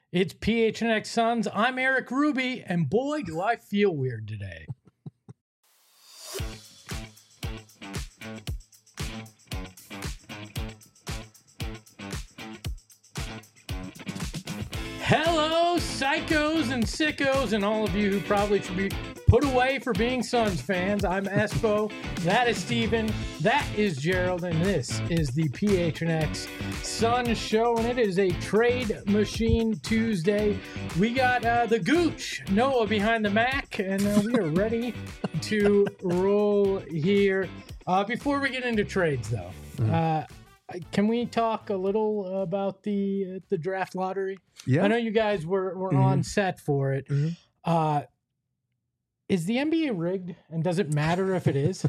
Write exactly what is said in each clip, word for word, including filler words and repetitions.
It's P H N X Suns. I'm Eric Ruby, and boy, do I feel weird today. Hello, psychos and sickos, and all of you who probably should be put away for being Suns fans. I'm Espo. That is Steven. That is Gerald, and this is the P H N X Suns show, and it is a Trade Machine Tuesday. We got uh, the Gooch, Noah behind the Mac, and uh, we are ready to roll here. Uh, before we get into trades, though, mm-hmm. uh, can we talk a little about the uh, the draft lottery? Yeah, I know you guys were, were mm-hmm. on set for it. Mm-hmm. Uh, is the N B A rigged, and does it matter if it is?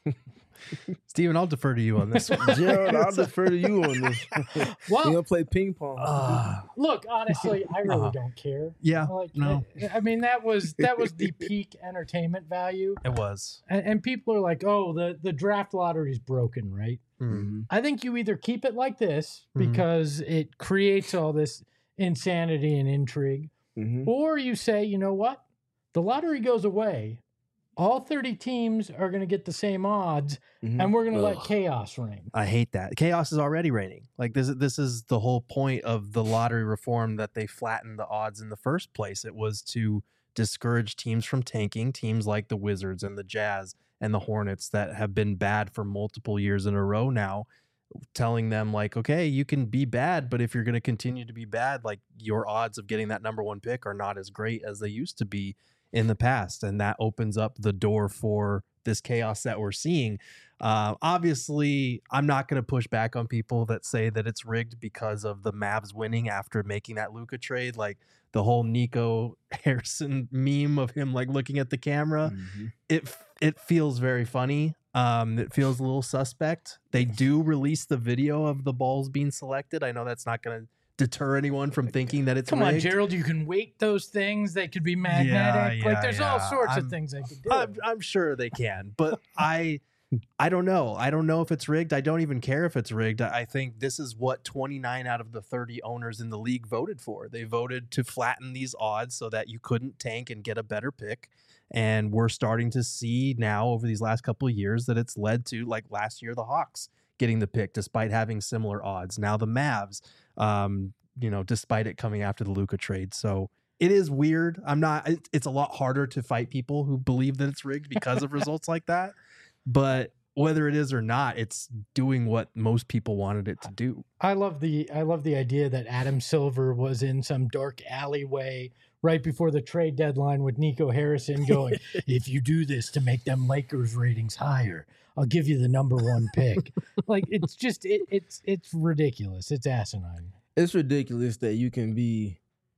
Steven, I'll defer to you on this one. Gerald, I'll defer to you on this. Well, you're gonna play ping pong. Uh, look, honestly, I really uh, don't care. Yeah, like, no. I, I mean, that was that was the peak entertainment value. It was, and, and people are like, "Oh, the the draft lottery is broken," right? Mm-hmm. I think you either keep it like this because mm-hmm. it creates all this insanity and intrigue, mm-hmm. or you say, you know what, the lottery goes away. All thirty teams are going to get the same odds, mm-hmm. and we're going to let chaos reign. I hate that. Chaos is already reigning. Like this, this is the whole point of the lottery reform, that they flattened the odds in the first place. It was to discourage teams from tanking, teams like the Wizards and the Jazz and the Hornets that have been bad for multiple years in a row now, telling them like, okay, you can be bad, but if you're going to continue to be bad, like your odds of getting that number one pick are not as great as they used to be in the past. And that opens up the door for this chaos that we're seeing. Uh, obviously, I'm not going to push back on people that say that it's rigged because of the Mavs winning after making that Luka trade. Like the whole Nico Harrison meme of him like looking at the camera. Mm-hmm. It it feels very funny. Um, it feels a little suspect. They do release the video of the balls being selected. I know that's not going to deter anyone from thinking that it's Come rigged. on, Gerald, you can weight those things. They could be magnetic. Yeah, like yeah, there's yeah. all sorts I'm, of things they could do. I'm, I'm sure they can, but I I don't know. I don't know if it's rigged. I don't even care if it's rigged. I think this is what twenty-nine out of the thirty owners in the league voted for. They voted to flatten these odds so that you couldn't tank and get a better pick. And we're starting to see now over these last couple of years that it's led to, like last year, the Hawks getting the pick despite having similar odds. Now the Mavs, um, you know, despite it coming after the Luka trade. So it is weird. I'm not, it, it's a lot harder to fight people who believe that it's rigged because of results like that. But whether it is or not, it's doing what most people wanted it to do. I love the, I love the idea that Adam Silver was in some dark alleyway right before the trade deadline with Nico Harrison going, if you do this to make them Lakers ratings higher, I'll give you the number one pick. Like, it's just, it, it's, it's ridiculous. It's asinine. It's ridiculous that you can be,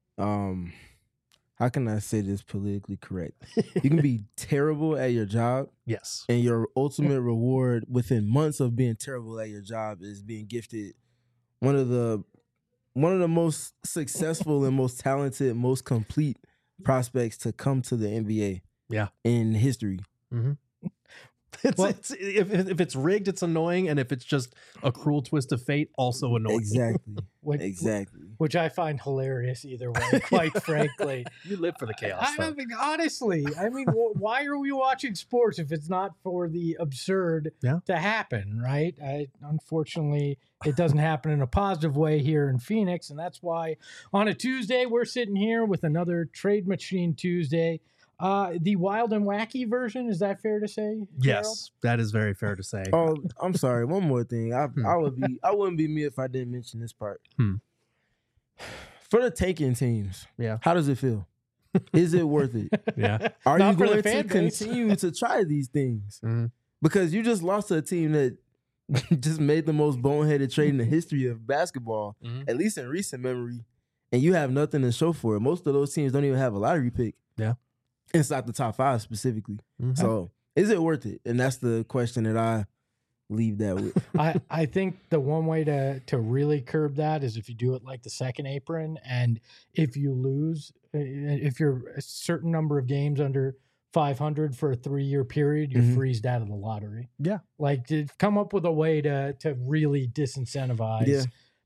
um, how can I say this politically correct? You can be terrible at your job. Yes. And your ultimate reward within months of being terrible at your job is being gifted one of the one of the most successful and most talented, most complete prospects to come to the N B A. Yeah. In history. Mm-hmm. It's, well, it's, if, if it's rigged, it's annoying, and if it's just a cruel twist of fate, also annoying. Exactly. Which, exactly. Which I find hilarious either way, quite frankly. You live for the chaos. I, I mean, honestly, I mean, why are we watching sports if it's not for the absurd yeah. to happen, right? I, unfortunately, it doesn't happen in a positive way here in Phoenix, and that's why on a Tuesday, we're sitting here with another Trade Machine Tuesday. Uh, the wild and wacky version, is that fair to say, Gerald? Yes, that is very fair to say. Oh, I'm sorry. One more thing. I hmm. I would be I wouldn't be me if I didn't mention this part. Hmm. For the taking teams, yeah. How does it feel? Is it worth it? Yeah. Are Not you for going the to fan base. continue to try these things? Mm-hmm. Because you just lost to a team that just made the most boneheaded trade in the history of basketball, mm-hmm. at least in recent memory, and you have nothing to show for it. Most of those teams don't even have a lottery pick. Yeah. Inside the top five specifically. Mm-hmm. So is it worth it? And that's the question that I leave that with. I, I think the one way to to really curb that is if you do it like the second apron, and if you lose, if you're a certain number of games under five hundred for a three-year period, you're mm-hmm. freezed out of the lottery. Yeah. Like to come up with a way to to really disincentivize yeah.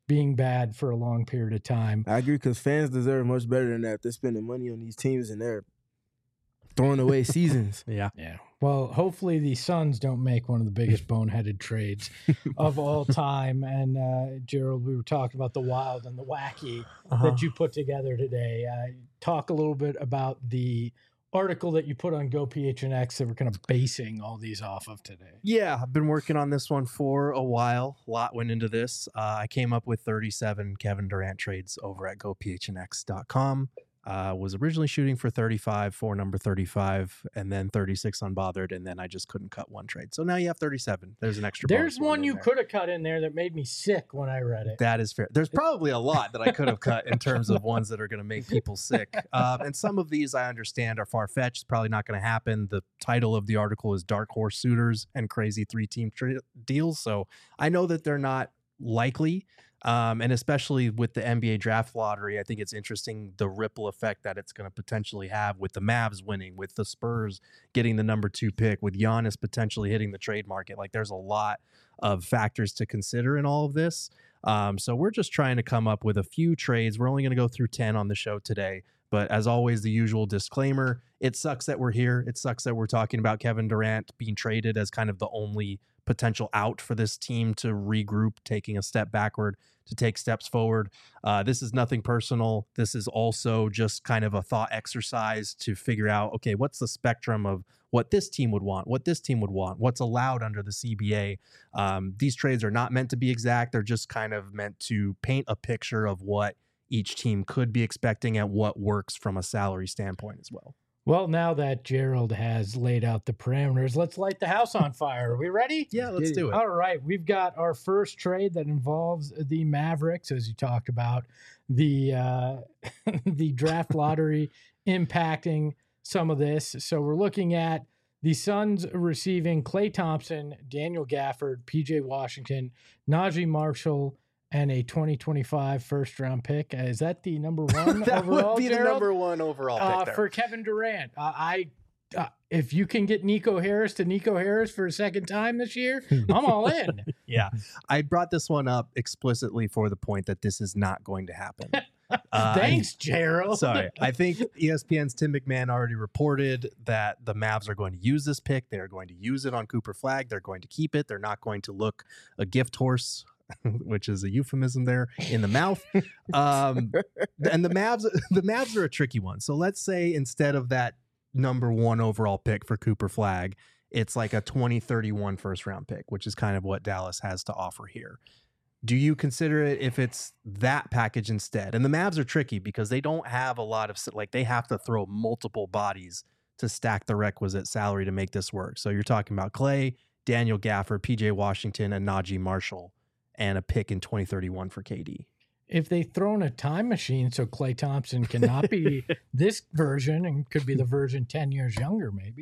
being bad for a long period of time. I agree, because fans deserve much better than that. They're spending money on these teams and they're throwing away seasons. Yeah. Yeah. Well, hopefully the Suns don't make one of the biggest boneheaded trades of all time. And uh, Gerald, we were talking about the wild and the wacky Uh-huh. that you put together today. Uh, talk a little bit about the article that you put on Go P H N X that we're kind of basing all these off of today. Yeah, I've been working on this one for a while. A lot went into this. Uh, I came up with thirty-seven Kevin Durant trades over at go p h n x dot com. Uh, was originally shooting for thirty-five for number thirty-five, and then thirty-six unbothered, and then I just couldn't cut one trade. So now you have thirty-seven. There's an extra. There's bonus one in you there. could have cut in there that made me sick when I read it. That is fair. There's probably a lot that I could have cut in terms of ones that are going to make people sick. Um, and some of these I understand are far-fetched. Probably not going to happen. The title of the article is Dark Horse Suitors and Crazy Three-Team tra- Deals. So I know that they're not likely. Um, and especially with the N B A draft lottery, I think it's interesting the ripple effect that it's going to potentially have with the Mavs winning, with the Spurs getting the number two pick, with Giannis potentially hitting the trade market. Like, there's a lot of factors to consider in all of this. Um, so we're just trying to come up with a few trades. We're only going to go through ten on the show today. But as always, the usual disclaimer, it sucks that we're here. It sucks that we're talking about Kevin Durant being traded as kind of the only potential out for this team to regroup, taking a step backward to take steps forward. Uh, this is nothing personal. This is also just kind of a thought exercise to figure out, okay, what's the spectrum of what this team would want, what this team would want, what's allowed under the C B A. Um, these trades are not meant to be exact. They're just kind of meant to paint a picture of what each team could be expecting and what works from a salary standpoint as well. Well, now that Gerald has laid out the parameters, let's light the house on fire. Are we ready? Yeah, let's do it. All right. We've got our first trade that involves the Mavericks, as you talked about, the uh, the draft lottery impacting some of this. So we're looking at the Suns receiving Klay Thompson, Daniel Gafford, P J Washington, Najee Marshall, and a twenty twenty-five first round pick. Uh, is that the number one that overall, would be Gerald? the number one overall pick uh, there. for Kevin Durant. Uh, I uh, if you can get Nico Harris to Nico Harris for a second time this year, I'm all in. Yeah, I brought this one up explicitly for the point that this is not going to happen. Uh, Thanks, Gerald. Sorry. I think E S P N's Tim McMahon already reported that the Mavs are going to use this pick. They're going to use it on Cooper Flag. They're going to keep it. They're not going to look a gift horse, which is a euphemism there, in the mouth. Um, and the Mavs, the Mavs are a tricky one. So let's say instead of that number one overall pick for Cooper Flag, it's like a twenty thirty-one first round pick, which is kind of what Dallas has to offer here. Do you consider it if it's that package instead? And the Mavs are tricky because they don't have a lot of, like, they have to throw multiple bodies to stack the requisite salary to make this work. So you're talking about Klay, Daniel Gafford, P J Washington, and Najee Marshall, and a pick in twenty thirty-one for K D. If they throw in a time machine so Klay Thompson cannot be this version and could be the version ten years younger, maybe.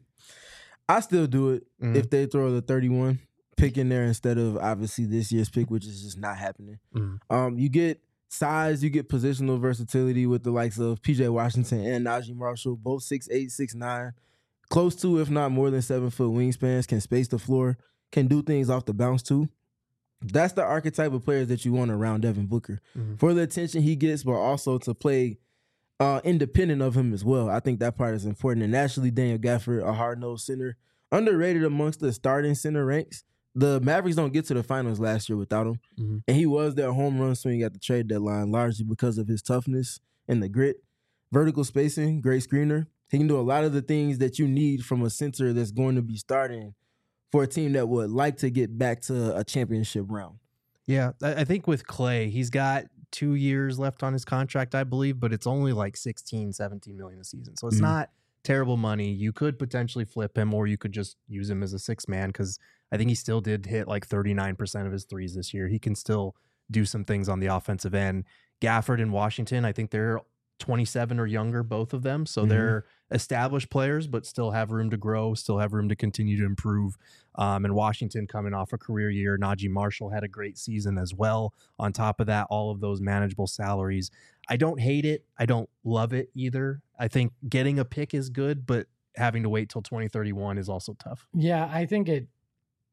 I still do it Mhm. if they throw the thirty-one pick in there instead of obviously this year's pick, which is just not happening. Mhm. Um, you get size, you get positional versatility with the likes of P J Washington and Najee Marshall, both six eight, six nine, close to, if not more than seven foot wingspans, can space the floor, can do things off the bounce too. That's the archetype of players that you want around Devin Booker Mhm. for the attention he gets, but also to play uh, independent of him as well. I think that part is important. And naturally, Daniel Gafford, a hard-nosed center, underrated amongst the starting center ranks. The Mavericks don't get to the finals last year without him. Mhm. And he was their home run swing at the trade deadline, largely because of his toughness and the grit. Vertical spacing, great screener. He can do a lot of the things that you need from a center that's going to be starting for a team that would like to get back to a championship round. Yeah, I I think with Klay, he's got two years left on his contract, I believe, but it's only like sixteen, seventeen million a season. So it's Mhm. not terrible money. You could potentially flip him, or you could just use him as a six man because I think he still did hit like thirty-nine percent of his threes this year. He can still do some things on the offensive end. Gafford and Washington, I think they're twenty-seven or younger, both of them. So Mhm. they're established players, but still have room to grow, still have room to continue to improve. Um, and Washington coming off a career year. Najee Marshall had a great season as well. On top of that, all of those manageable salaries. I don't hate it. I don't love it either. I think getting a pick is good, but having to wait till twenty thirty-one is also tough. Yeah, I think it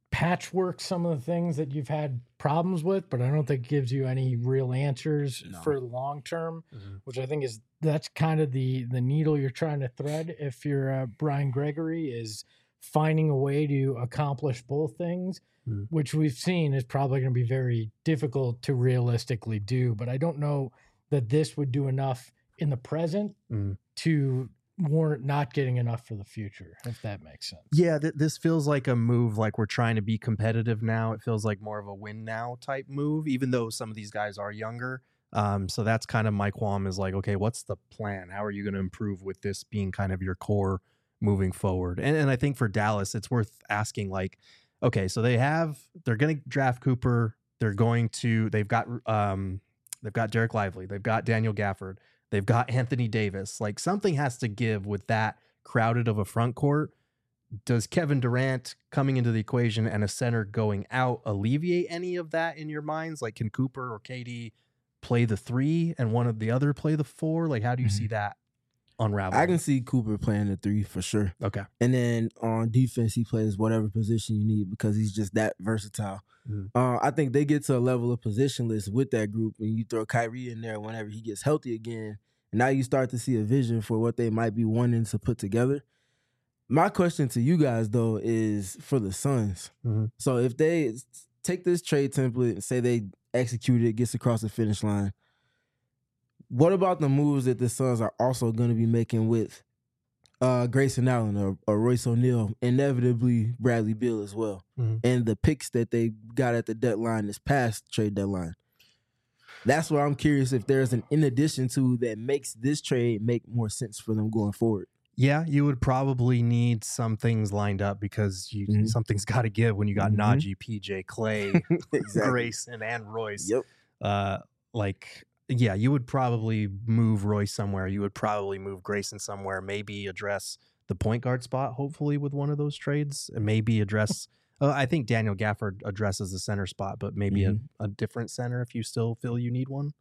patchwork some of the things that you've had problems with, but I don't think it gives you any real answers No. for the long term, Mm-hmm. which I think is that's kind of the the needle you're trying to thread. If you're uh, Brian Gregory, is finding a way to accomplish both things, Mhm. which we've seen is probably going to be very difficult to realistically do. But I don't know that this would do enough in the present Mhm. to warrant not getting enough for the future, if that makes sense. Yeah, th- this feels like a move like we're trying to be competitive now. It feels like more of a win now type move, even though some of these guys are younger. Um, so that's kind of my qualm is like, okay, what's the plan? How are you going to improve with this being kind of your core moving forward? And, and I think for Dallas, it's worth asking like, okay, so they have, they're going to draft Cooper. They're going to, they've got, um, they've got Derek Lively. They've got Daniel Gafford. They've got Anthony Davis. Like something has to give with that crowded of a front court. Does Kevin Durant coming into the equation and a center going out alleviate any of that in your minds? Like can Cooper or K D play the three and one of the other play the four? Like how do you Mhm. see that unraveling? I can see Cooper playing the three for sure. Okay. And then on defense, he plays whatever position you need because he's just that versatile. Mhm. Uh, I think they get to a level of positionless with that group, and you throw Kyrie in there whenever he gets healthy again. And now you start to see a vision for what they might be wanting to put together. My question to you guys, though, is for the Suns. Mhm. So if they take this trade template and say they execute it, gets across the finish line, what about the moves that the Suns are also going to be making with uh, Grayson Allen or, or Royce O'Neal, inevitably Bradley Beal as well, Mhm. and the picks that they got at the deadline, this past trade deadline? That's where I'm curious if there's an in addition to that makes this trade make more sense for them going forward. Yeah, you would probably need some things lined up because you Mhm. something's got to give when you got Mhm. Najee, P J, Clay, Exactly. Grayson, and Royce. Yep. Uh, like, yeah, you would probably move Royce somewhere. You would probably move Grayson somewhere. Maybe address the point guard spot, hopefully, with one of those trades, and maybe address. uh, I think Daniel Gafford addresses the center spot, but maybe Mhm. a, a different center if you still feel you need one.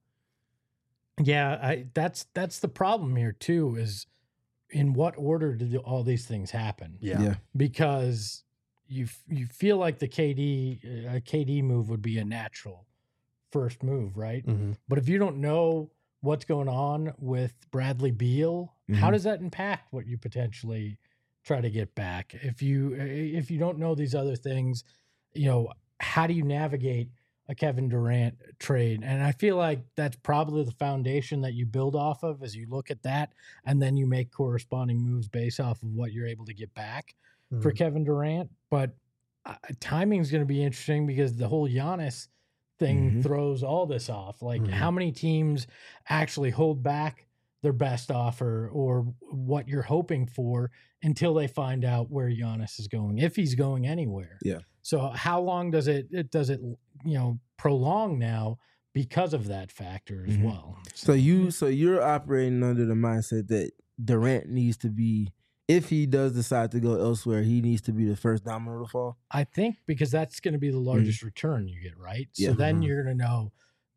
Yeah, I that's that's the problem here too, is in what order did all these things happen? Yeah. Yeah. Because you f- you feel like the K D a K D move would be a natural first move, right? Mhm. But if you don't know what's going on with Bradley Beal, how Mhm. does that impact what you potentially try to get back? If you if you don't know these other things, you know, how do you navigate a Kevin Durant trade? And I feel like that's probably the foundation that you build off of as you look at that, and then you make corresponding moves based off of what you're able to get back for Mhm. Kevin Durant. But uh, timing is going to be interesting because the whole Giannis thing Mhm. throws all this off. Like, Mhm. how many teams actually hold back their best offer or what you're hoping for until they find out where Giannis is going, if he's going anywhere? Yeah. So how long does it, it does it, you know, prolong now because of that factor as Mhm. well? So you, so you're operating under the mindset that Durant needs to be, if he does decide to go elsewhere, he needs to be the first domino to fall. I think because that's going to be the largest return you get, right? So Yeah. then Mhm. you're going to know,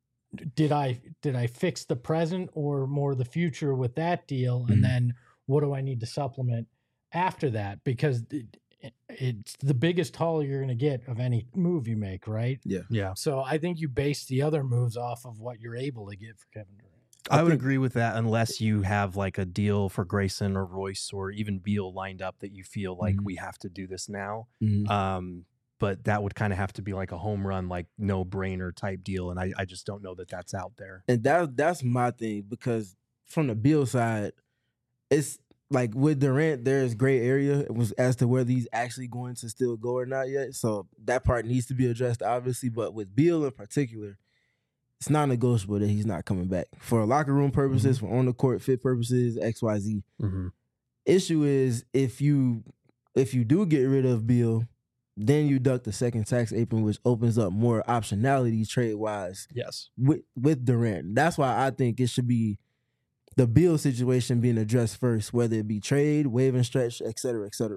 did I did I fix the present or more the future with that deal, and Mhm. then what do I need to supplement after that? Because it, it, it's the biggest haul you're going to get of any move you make, right? Yeah. So I think you base the other moves off of what you're able to get for Kevin Durant. I, I would think- agree with that unless you have like a deal for Grayson or Royce or even Beal lined up that you feel like Mhm. we have to do this now. Mhm. Um, but that would kind of have to be like a home run, like no brainer type deal. And I, I just don't know that that's out there. And that that's my thing, because from the Beal side, it's like with Durant, there's gray area it was as to whether he's actually going to still go or not yet. So that part needs to be addressed, obviously. But with Beal in particular, it's not negotiable that he's not coming back for locker room purposes, for on the court fit purposes, X, Y, Z. Mm-hmm. Issue is if you if you do get rid of Beal, then you duck the second tax apron, which opens up more optionality trade wise Yes. with with Durant. That's why I think it should be the Beal situation being addressed first, whether it be trade, waive and stretch, et cetera, et cetera.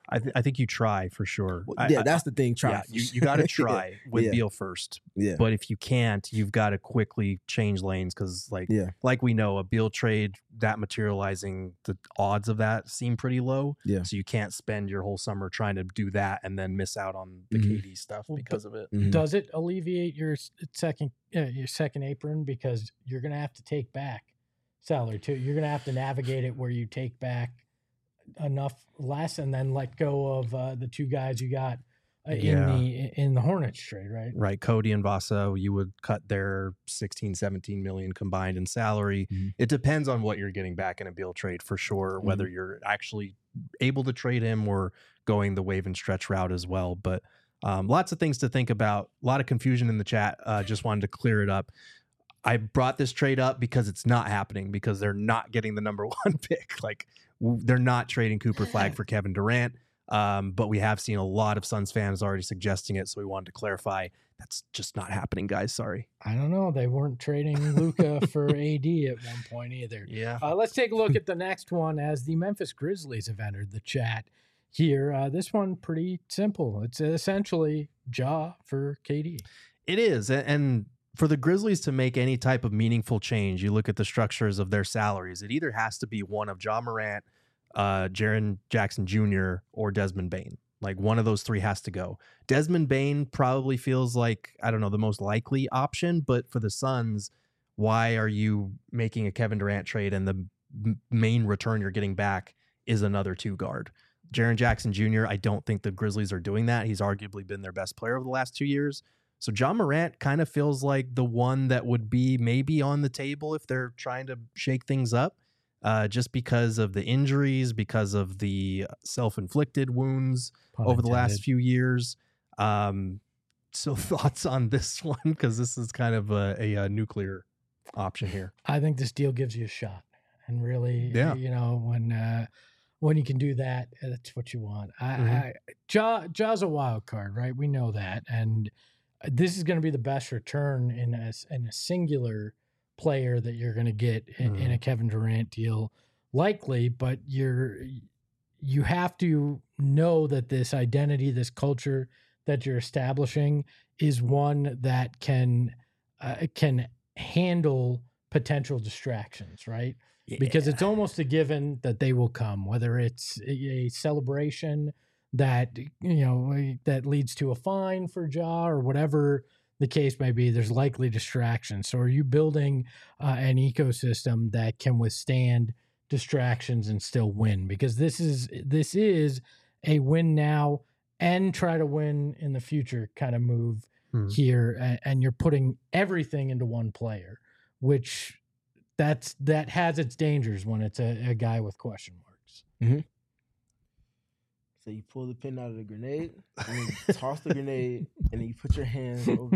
I, th- I think you try for sure. Well, I- yeah, I- that's the thing. Try. Yeah, you, you got to try with Yeah. Beal first. Yeah. But if you can't, you've got to quickly change lanes because, like, Yeah. like we know, a Beal trade that materializing, the odds of that seem pretty low. Yeah. So you can't spend your whole summer trying to do that and then miss out on the Mhm. K D stuff Well, because of it. Mhm. Does it alleviate your s- second uh, your second apron because you're going to have to take back salary too? You're going to have to navigate it where you take back enough less and then let go of uh, the two guys you got uh, Yeah. in the in the Hornets trade, right? Right. Cody and Vaso, you would cut their sixteen, seventeen million combined in salary. Mhm. It depends on what you're getting back in a Beal trade for sure, whether you're actually able to trade him or going the wave and stretch route as well. But um, lots of things to think about. A lot of confusion in the chat. Uh, just wanted to clear it up. I brought this trade up because it's not happening because they're not getting the number one pick. Like w- they're not trading Cooper Flag for Kevin Durant. Um, but we have seen a lot of Suns fans already suggesting it. So we wanted to clarify that's just not happening, guys. Sorry. I don't know. They weren't trading Luka for A D at one point either. Yeah. Uh, let's take a look at the next one as the Memphis Grizzlies have entered the chat here. Uh, this one pretty simple. It's essentially Ja for K D. It is. a- And for the Grizzlies to make any type of meaningful change, you look at the structures of their salaries. It either has to be one of Ja Morant, uh, Jaren Jackson Junior, or Desmond Bain. Like one of those three has to go. Desmond Bain probably feels like, I don't know, the most likely option. But for the Suns, why are you making a Kevin Durant trade and the m- main return you're getting back is another two guard? Jaren Jackson Junior, I don't think the Grizzlies are doing that. He's arguably been their best player over the last two years. So Ja Morant kind of feels like the one that would be maybe on the table if they're trying to shake things up, uh, just because of the injuries, because of the self-inflicted wounds Pun over the last intended. few years. Um, so thoughts on this one? Because this is kind of a, a, a nuclear option here. I think this deal gives you a shot, and really, Yeah. you know, when uh, when you can do that, that's what you want. I, Mhm. I Ja Ja's a wild card, right? We know that, and this is going to be the best return in a s- in a singular player that you're going to get in, in a Kevin Durant deal, likely. But you're you have to know that this identity, this culture that you're establishing, is one that can uh, can handle potential distractions, right? Because it's almost a given that they will come, whether it's a a celebration that, you know, that leads to a fine for Ja or whatever the case may be. There's likely distractions. So are you building uh, an ecosystem that can withstand distractions and still win? Because this is this is a win now and try to win in the future kind of move Mhm. here, and, and you're putting everything into one player, which that's that has its dangers when it's a, a guy with question marks. So you pull the pin out of the grenade, and then you toss the grenade, and then you put your hands over.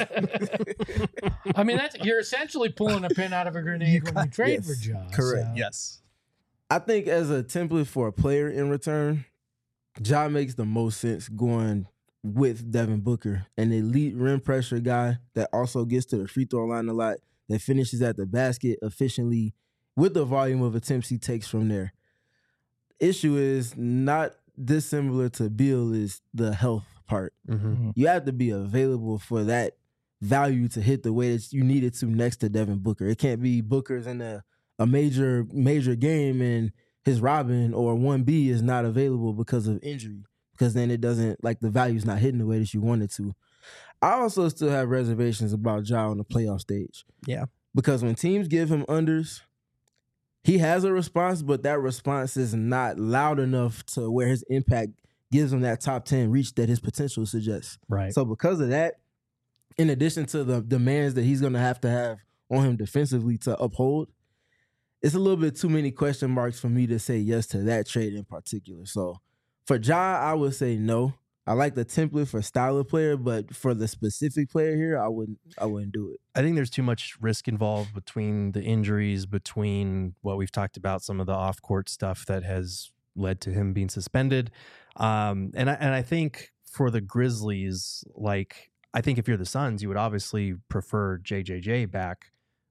You. I mean, that's you're essentially pulling a pin out of a grenade when you trade yes, for Ja. correct. so- Yes. I think as a template for a player in return, Ja makes the most sense going with Devin Booker, an elite rim pressure guy that also gets to the free throw line a lot, that finishes at the basket efficiently with the volume of attempts he takes from there. Issue is not dissimilar to Beal is the health part. Mm-hmm. You have to be available for that value to hit the way that you need it to next to Devin Booker. It can't be Booker's in a, a major major game and his Robin or one B is not available because of injury, because then it doesn't, like, the value's not hitting the way that you want it to. I also still have reservations about Ja on the playoff stage. Yeah. Because when teams give him unders, he has a response, but that response is not loud enough to where his impact gives him that top ten reach that his potential suggests. Right. So because of that, in addition to the demands that he's going to have to have on him defensively to uphold, it's a little bit too many question marks for me to say yes to that trade in particular. So for Ja, I would say no. I like the template for style of player, but for the specific player here, I wouldn't I wouldn't do it. I think there's too much risk involved between the injuries, between what we've talked about, some of the off-court stuff that has led to him being suspended. Um, and I, and I think for the Grizzlies, like, I think if you're the Suns, you would obviously prefer J J J back,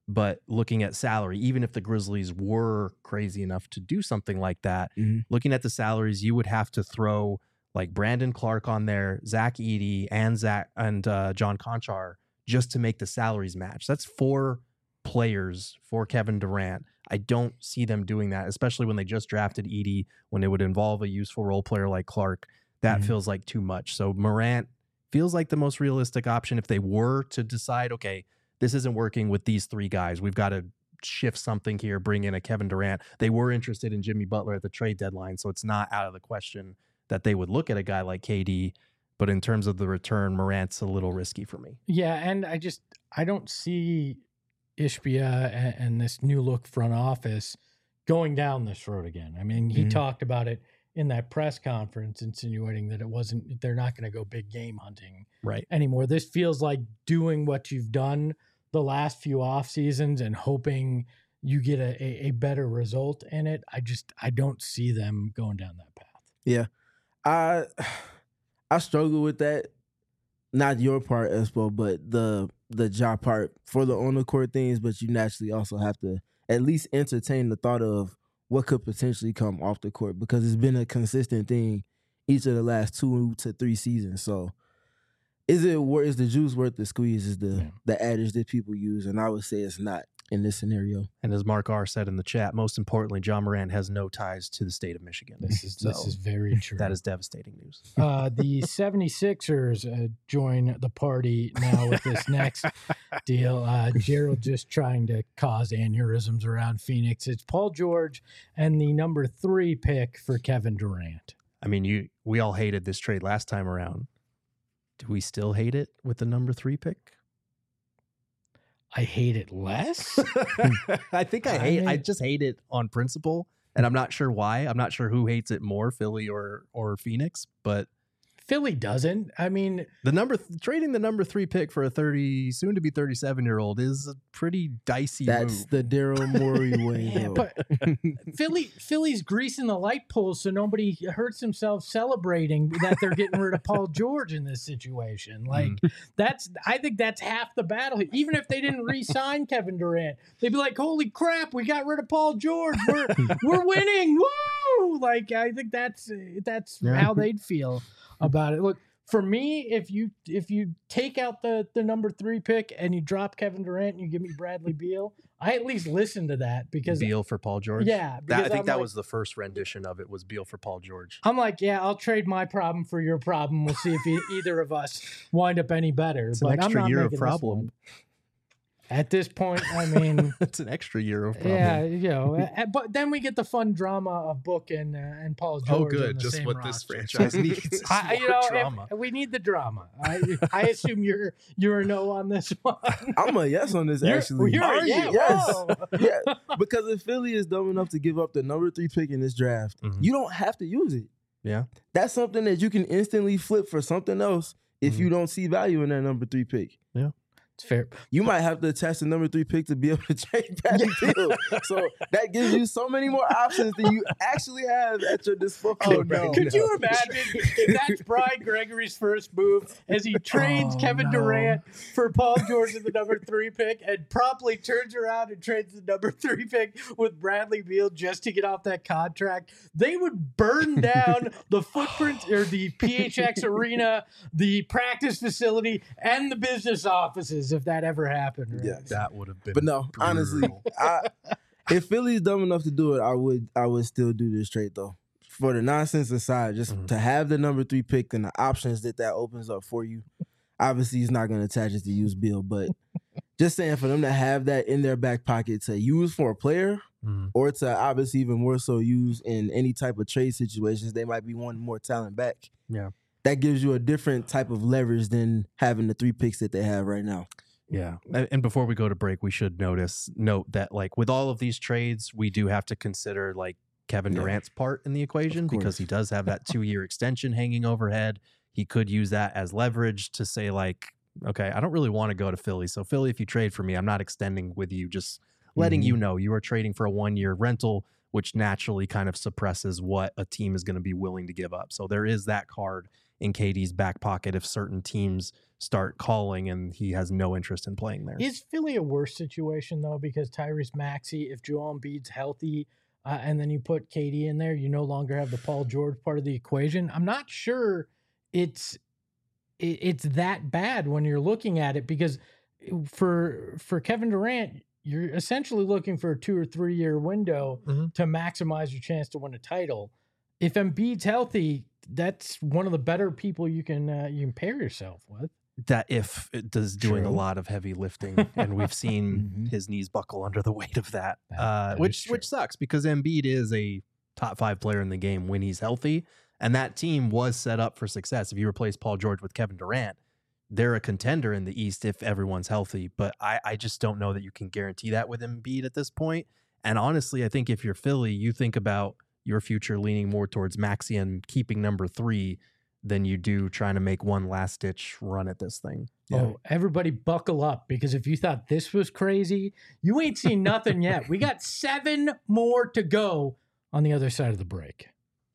But looking at salary, even if the Grizzlies were crazy enough to do something like that, Mhm. looking at the salaries, you would have to throw like Brandon Clark on there, Zach Edey, and Zach and uh, John Conchar just to make the salaries match. That's four players for Kevin Durant. I don't see them doing that, especially when they just drafted Edey, when it would involve a useful role player like Clark. That Mhm. feels like too much. So Morant feels like the most realistic option if they were to decide, okay, this isn't working with these three guys. We've got to shift something here, bring in a Kevin Durant. They were interested in Jimmy Butler at the trade deadline, so it's not out of the question that they would look at a guy like K D. But in terms of the return, Morant's a little risky for me. Yeah, and I just I don't see Ishbia and, and this new look front office going down this road again. I mean, he Mhm. talked about it in that press conference, insinuating that it wasn't they're not going to go big game hunting Right. anymore. This feels like doing what you've done the last few off seasons and hoping you get a, a, a better result in it. I just I don't see them going down that path. I I struggle with that. Not your part, Espo, but the the job part for the on the court things. But you naturally also have to at least entertain the thought of what could potentially come off the court, because it's been a consistent thing each of the last two to three seasons. So, is it worth? Is the juice worth the squeeze? Is the Yeah. the adage that people use, and I would say it's not in this scenario. And as Mark R said in the chat, most importantly, John Morant has no ties to the state of Michigan. This is this So, is very true. that is devastating news. Uh, the 76ers uh, join the party now with this next deal. Uh, Gerald just trying to cause aneurysms around Phoenix. It's Paul George and the number three pick for Kevin Durant. I mean, you we all hated this trade last time around. Do we still hate it with the number three pick? I hate it less. I think I I hate. I mean- just hate it on principle, and I'm not sure why. I'm not sure who hates it more, Philly or or Phoenix. But Philly doesn't. I mean, the number th- trading the number three pick for a thirty, soon to be thirty-seven year old is a pretty dicey That's move. the Daryl Morey way. yeah, though. but Philly Philly's greasing the light poles so nobody hurts themselves celebrating that they're getting rid of Paul George in this situation. Like that's I think that's half the battle. Even if they didn't re-sign Kevin Durant, they'd be like, "Holy crap, we got rid of Paul George. We're we're winning. Woo!" Like I think that's that's Yeah. how they'd feel about it. Look, for me, if you if you take out the the number three pick and you drop Kevin Durant and you give me Bradley Beal, I at least listen to that because Beal for Paul George. yeah, That, because I think I'm that like, was the first rendition of it. Was Beal for Paul George. I'm like, yeah, I'll trade my problem for your problem. We'll see if e- either of us wind up any better. It's but an I'm extra not year of making this problem. one. At this point, I mean, It's an extra year of problem. yeah, you know, uh, but then we get the fun drama of Book and uh, and Paul George. Oh, on good. the Just same what this roster. franchise needs. is I, you more know, if- drama. we need the drama. I, I assume you're you're a no on this one. I'm a yes on this. You're- Actually, you're a Are you? yeah, Yes. whoa. Yeah, because if Philly is dumb enough to give up the number three pick in this draft, Mhm. you don't have to use it. Yeah. That's something that you can instantly flip for something else if Mhm. you don't see value in that number three pick. It's fair. You might have to attach the number three pick to be able to trade Bradley Beal. So that gives you so many more options than you actually have at your disposal. Oh, right no. Could now. you imagine if that's Brian Gregory's first move as he trades Oh, Kevin no. Durant for Paul George in the number three pick and promptly turns around and trades the number three pick with Bradley Beal just to get off that contract? They would burn down the footprint or the P H X arena, the practice facility, and the business offices if that ever happened. Right? Yes. That would have been. But no, honestly, brutal. I, if Philly's dumb enough to do it, I would I would still do this trade though. For the nonsense aside, just Mhm. to have the number three pick and the options that that opens up for you. Obviously, he's not going to attach it to use Bill, but just saying for them to have that in their back pocket to use for a player Mhm. or to obviously even more so use in any type of trade situations, they might be wanting more talent back. Yeah. That gives you a different type of leverage than having the three picks that they have right now. Yeah. And and before we go to break, we should notice note that like with all of these trades, we do have to consider like Kevin Yeah. Durant's part in the equation Of because course. he does have that two year extension hanging overhead. He could use that as leverage to say like, okay, I don't really want to go to Philly. So Philly, if you trade for me, I'm not extending with you, just letting Mhm. you know you are trading for a one year rental, which naturally kind of suppresses what a team is going to be willing to give up. So there is that card in K D's back pocket if certain teams start calling and he has no interest in playing there. Is Philly a worse situation, though? Because Tyrese Maxey, if Joel Embiid's healthy, uh, and then you put K D in there, you no longer have the Paul George part of the equation. I'm not sure it's it, it's that bad when you're looking at it, because for for Kevin Durant, you're essentially looking for a two or three year window mm-hmm. to maximize your chance to win a title. If Embiid's healthy, that's one of the better people you can uh, you can pair yourself with. That if it does doing True. a lot of heavy lifting, and we've seen Mhm. his knees buckle under the weight of that, That- uh, that which is true. which sucks because Embiid is a top five player in the game when he's healthy, and that team was set up for success. If you replace Paul George with Kevin Durant, they're a contender in the East if everyone's healthy. But I, I just don't know that you can guarantee that with Embiid at this point. And honestly, I think if you're Philly, you think about your future leaning more towards Maxey and keeping number three than you do trying to make one last ditch run at this thing. Oh, everybody buckle up, because if you thought this was crazy, you ain't seen nothing yet. We got seven more to go on the other side of the break.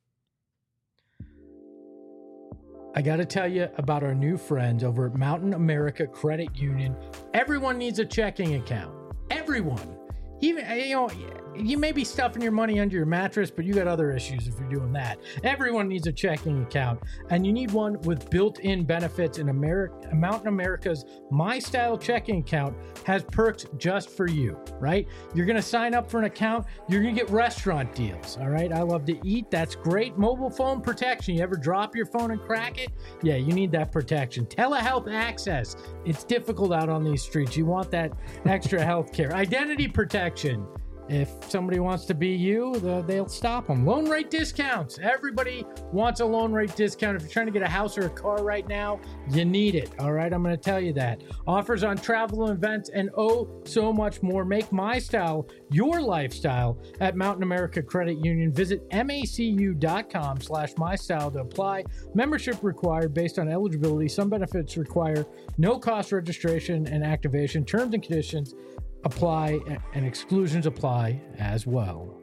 I got to tell you about our new friends over at Mountain America Credit Union. Everyone needs a checking account. Everyone. Even, you know, you may be stuffing your money under your mattress, but you got other issues if you're doing that. Everyone needs a checking account, and you need one with built-in benefits. And America, Mountain America's My Style checking account has perks just for you, right? You're going to sign up for an account. You're going to get restaurant deals, all right? I love to eat. That's great. Mobile phone protection. You ever drop your phone and crack it? Yeah, you need that protection. Telehealth access. It's difficult out on these streets. You want that extra health care. Identity protection. If somebody wants to be you, the, they'll stop them. Loan rate discounts. Everybody wants a loan rate discount. If you're trying to get a house or a car right now, you need it. All right, I'm going to tell you that. Offers on travel and events and oh, so much more. Make My Style your lifestyle at Mountain America Credit Union. Visit macu.com slash my style to apply. Membership required based on eligibility. Some benefits require no cost registration and activation. Terms and conditions apply, and exclusions apply as well.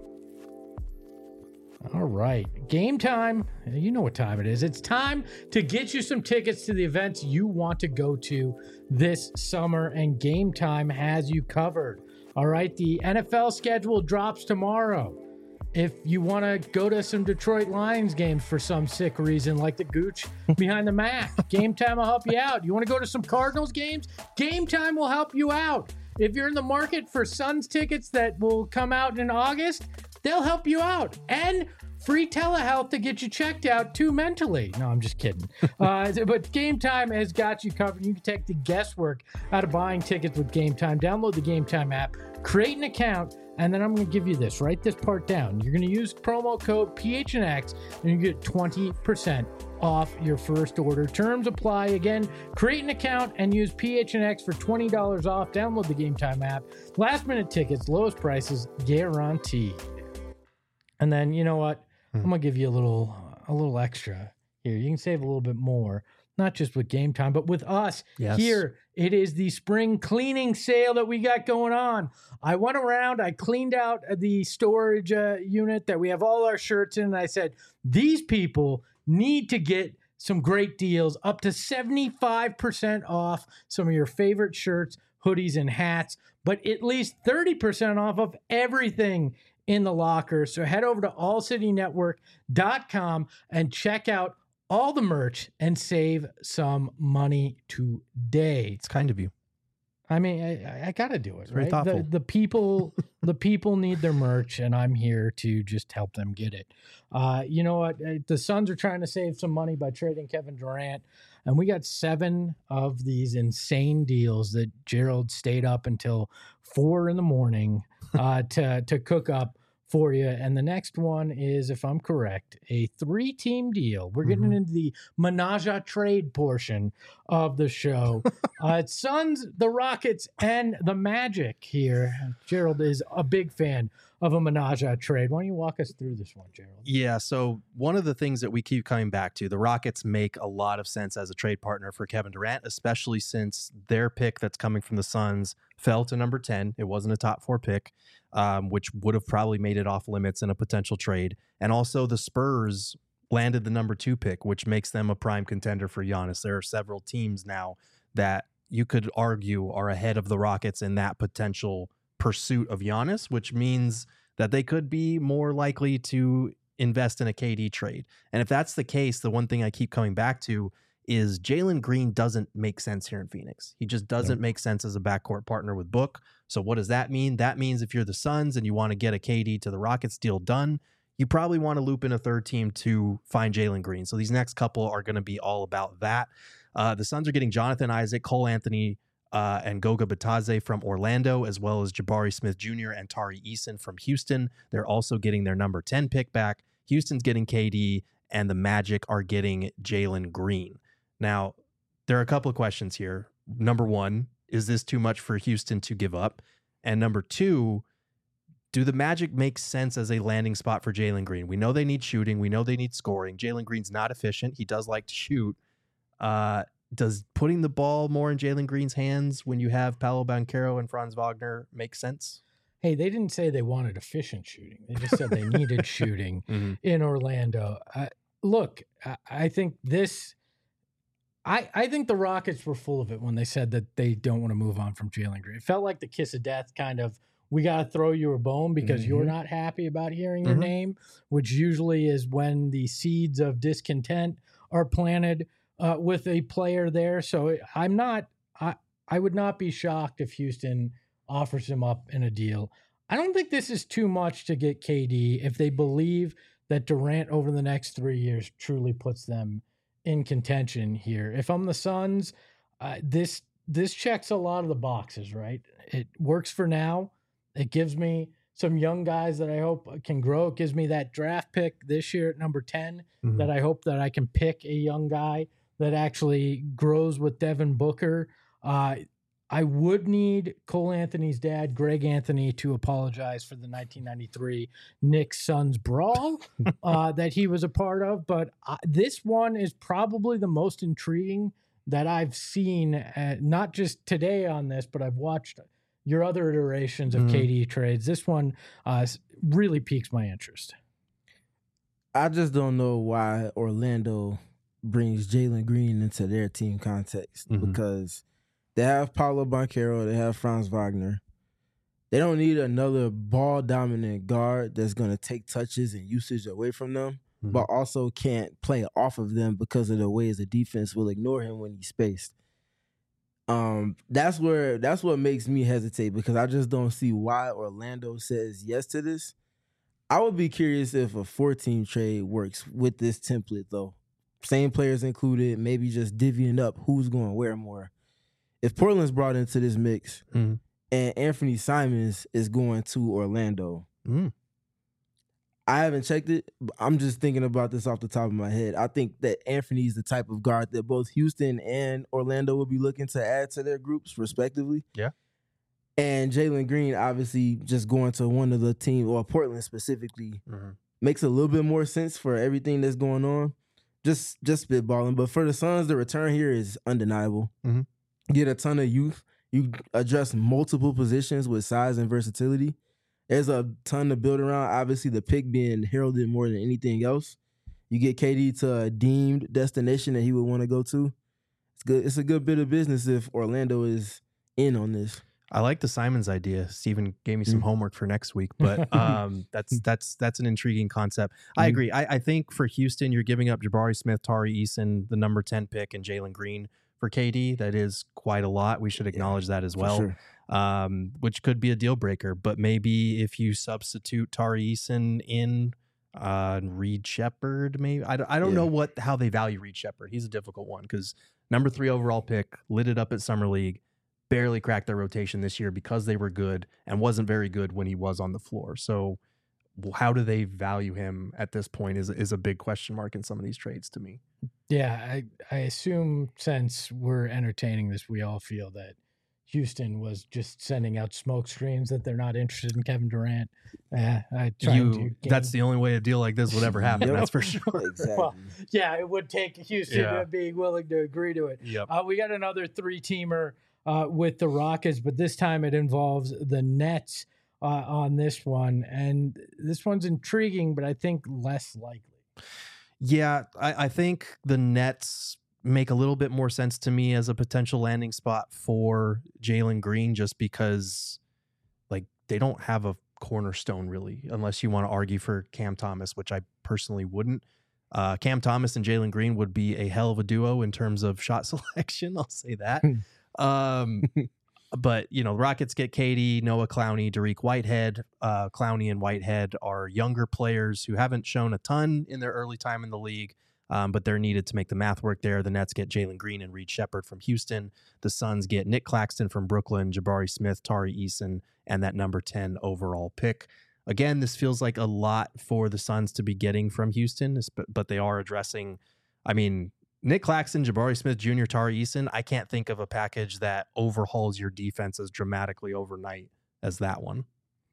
All right, game time. You know what time it is. It's time to get you some tickets to the events you want to go to this summer, and Game Time has you covered. All right, the N F L schedule drops tomorrow. If you want to go to some Detroit Lions games for some sick reason, like the Gooch behind the Mac, Game Time will help you out. You want to go to some Cardinals games? Game Time will help you out. If you're in the market for Suns tickets that will come out in August, they'll help you out. And free telehealth to get you checked out too mentally. No, I'm just kidding. Uh, but Game Time has got you covered. You can take the guesswork out of buying tickets with Game Time. Download the Game Time app, create an account, and then I'm going to give you this. Write this part down. You're going to use promo code P H N X, and you get twenty percent off your first order. Terms apply. Again, create an account and use P H N X for twenty dollars off. Download the Game Time app. Last minute tickets, lowest prices guaranteed. And then, you know what? I'm going to give you a little a little extra here. You can save a little bit more, not just with Game Time, but with us Yes. here. It is the spring cleaning sale that we got going on. I went around, I cleaned out the storage uh, unit that we have all our shirts in, and I said, these people need to get some great deals, up to seventy-five percent off some of your favorite shirts, hoodies, and hats, but at least thirty percent off of everything in the locker. So head over to all city network dot com and check out all the merch and save some money today. It's kind of you. I mean, I, I got to do it, It's very right? thoughtful. The, the people, the people need their merch, and I'm here to just help them get it. Uh, you know what? Uh, The Suns are trying to save some money by trading Kevin Durant, and we got seven of these insane deals that Gerald stayed up until four in the morning uh, to to cook up for you. And the next one is, if I'm correct, a three-team deal. We're getting Mhm. into the menage a trade portion of the show. uh, it's Suns, the Rockets, and the Magic here. Gerald is a big fan of a menage a trade. Why don't you walk us through this one, Gerald? Yeah, so one of the things that we keep coming back to, the Rockets make a lot of sense as a trade partner for Kevin Durant, especially since their pick that's coming from the Suns fell to number ten. It wasn't a top four pick, um, which would have probably made it off limits in a potential trade. And also the Spurs landed the number two pick, which makes them a prime contender for Giannis. There are several teams now that you could argue are ahead of the Rockets in that potential pursuit of Giannis, which means that they could be more likely to invest in a K D trade. And if that's the case, the one thing I keep coming back to is Jalen Green doesn't make sense here in Phoenix. He just doesn't yep. make sense as a backcourt partner with Book. So what does that mean? That means if you're the Suns and you want to get a K D to the Rockets deal done, you probably want to loop in a third team to find Jalen Green. So these next couple are going to be all about that. Uh, the Suns are getting Jonathan Isaac, Cole Anthony, uh, and Goga Bitadze from Orlando, as well as Jabari Smith Junior and Tari Eason from Houston. They're also getting their number ten pick back. Houston's getting K D, and the Magic are getting Jalen Green. Now, there are a couple of questions here. Number one, is this too much for Houston to give up? And number two, do the Magic make sense as a landing spot for Jalen Green? We know they need shooting. We know they need scoring. Jalen Green's not efficient. He does like to shoot. Uh, does putting the ball more in Jalen Green's hands when you have Paolo Banchero and Franz Wagner make sense? Hey, they didn't say they wanted efficient shooting. They just said they needed shooting mm-hmm. in Orlando. Uh, look, I, I think this... I, I think the Rockets were full of it when they said that they don't want to move on from Jalen Green. It felt like the kiss of death kind of, we got to throw you a bone because mm-hmm. you're not happy about hearing mm-hmm. your name, which usually is when the seeds of discontent are planted uh, with a player there. So I'm not, I, I would not be shocked if Houston offers him up in a deal. I don't think this is too much to get K D if they believe that Durant over the next three years truly puts them in contention here. If I'm the Suns, uh, this this checks a lot of the boxes, right? It works for now. It gives me some young guys that I hope can grow. It gives me that draft pick this year at number ten mm-hmm. that I hope that I can pick a young guy that actually grows with Devin Booker. Uh, I would need Cole Anthony's dad, Greg Anthony, to apologize for the nineteen ninety-three Knicks Suns brawl uh, that he was a part of. But uh, this one is probably the most intriguing that I've seen, uh, not just today on this, but I've watched your other iterations of mm. K D trades. This one uh, really piques my interest. I just don't know why Orlando brings Jalen Green into their team context mm-hmm. because they have Paolo Banchero, they have Franz Wagner. They don't need another ball-dominant guard that's going to take touches and usage away from them, mm-hmm. but also can't play off of them because of the ways the defense will ignore him when he's spaced. Um, that's where that's what makes me hesitate because I just don't see why Orlando says yes to this. I would be curious if a four-team trade works with this template, though. Same players included, maybe just divvying up who's going where more. If Portland's brought into this mix mm. and Anthony Simons is going to Orlando, mm. I haven't checked it, but I'm just thinking about this off the top of my head. I think that Anthony's the type of guard that both Houston and Orlando will be looking to add to their groups, respectively. Yeah. And Jalen Green, obviously, just going to one of the teams, or Portland specifically, mm-hmm. makes a little bit more sense for everything that's going on. Just, just spitballing. But for the Suns, the return here is undeniable. Mm-hmm. Get a ton of youth. You address multiple positions with size and versatility. There's a ton to build around. Obviously, the pick being heralded more than anything else. You get K D to a deemed destination that he would want to go to. It's good. It's a good bit of business if Orlando is in on this. I like the Simons idea. Steven gave me some mm. homework for next week, but um, that's that's that's an intriguing concept. I mm. agree. I, I think for Houston, you're giving up Jabari Smith, Tari Eason, the number ten pick, and Jalen Green. For K D, that is quite a lot. We should acknowledge yeah, that as well, sure. um, which could be a deal breaker. But maybe if you substitute Tari Eason in uh, Reed Shepherd, maybe I don't, I don't yeah. know what how they value Reed Shepherd. He's a difficult one because number three overall pick, lit it up at Summer League, barely cracked their rotation this year because they were good and wasn't very good when he was on the floor. So how do they value him at this point is is a big question mark in some of these trades to me. Yeah, I, I assume since we're entertaining this, we all feel that Houston was just sending out smoke screens that they're not interested in Kevin Durant. Uh, I you, that's the only way a deal like this would ever happen. That's for sure. Exactly. Well, yeah, it would take Houston yeah. to be willing to agree to it. Yep. Uh, we got another three-teamer uh, with the Rockets, but this time it involves the Nets uh, on this one. And this one's intriguing, but I think less likely. Yeah, I, I think the Nets make a little bit more sense to me as a potential landing spot for Jalen Green, just because like they don't have a cornerstone really, unless you want to argue for Cam Thomas, which I personally wouldn't. Uh, Cam Thomas and Jalen Green would be a hell of a duo in terms of shot selection. I'll say that. um, but, you know, Rockets get K D, Noah Clowney, Dariq Whitehead. Uh, Clowney and Whitehead are younger players who haven't shown a ton in their early time in the league, um, but they're needed to make the math work there. The Nets get Jalen Green and Reed Shepherd from Houston. The Suns get Nick Claxton from Brooklyn, Jabari Smith, Tari Eason, and that number ten overall pick. Again, this feels like a lot for the Suns to be getting from Houston, but they are addressing, I mean, Nick Claxton, Jabari Smith Junior, Tari Eason. I can't think of a package that overhauls your defense as dramatically overnight as that one.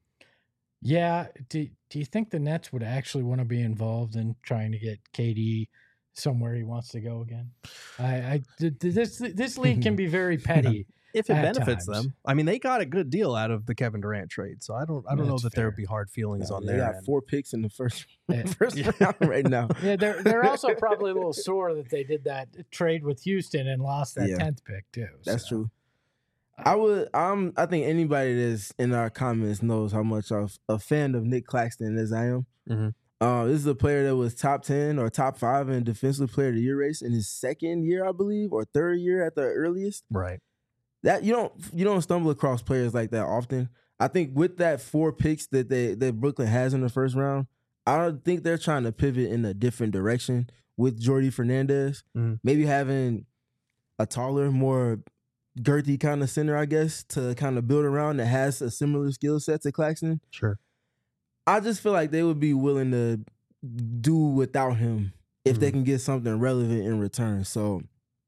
Yeah. Do, do you think the Nets would actually want to be involved in trying to get K D somewhere he wants to go again? I, I this this league can be very petty. If it At benefits times. them. I mean, they got a good deal out of the Kevin Durant trade, so I don't I don't That's know that there fair. would be hard feelings No, on they their got end. four picks in the first Yeah. first round right now. Yeah, they're they're also probably a little sore that they did that trade with Houston and lost that Yeah. tenth pick too. That's so. true. I would. I'm. I think anybody that's in our comments knows how much of a fan of Nick Claxton as I am. Mhm. Uh, this is a player that was top ten or top five in defensive player of the year race in his second year, I believe, or third year at the earliest. Right. That you don't you don't stumble across players like that often. I think with that four picks that they that Brooklyn has in the first round, I don't think they're trying to pivot in a different direction with Jordy Fernandez. Mhm. Maybe having a taller, more girthy kind of center, I guess, to kind of build around that has a similar skill set to Claxton. Sure. I just feel like they would be willing to do without him if they Mhm. can get something relevant in return. So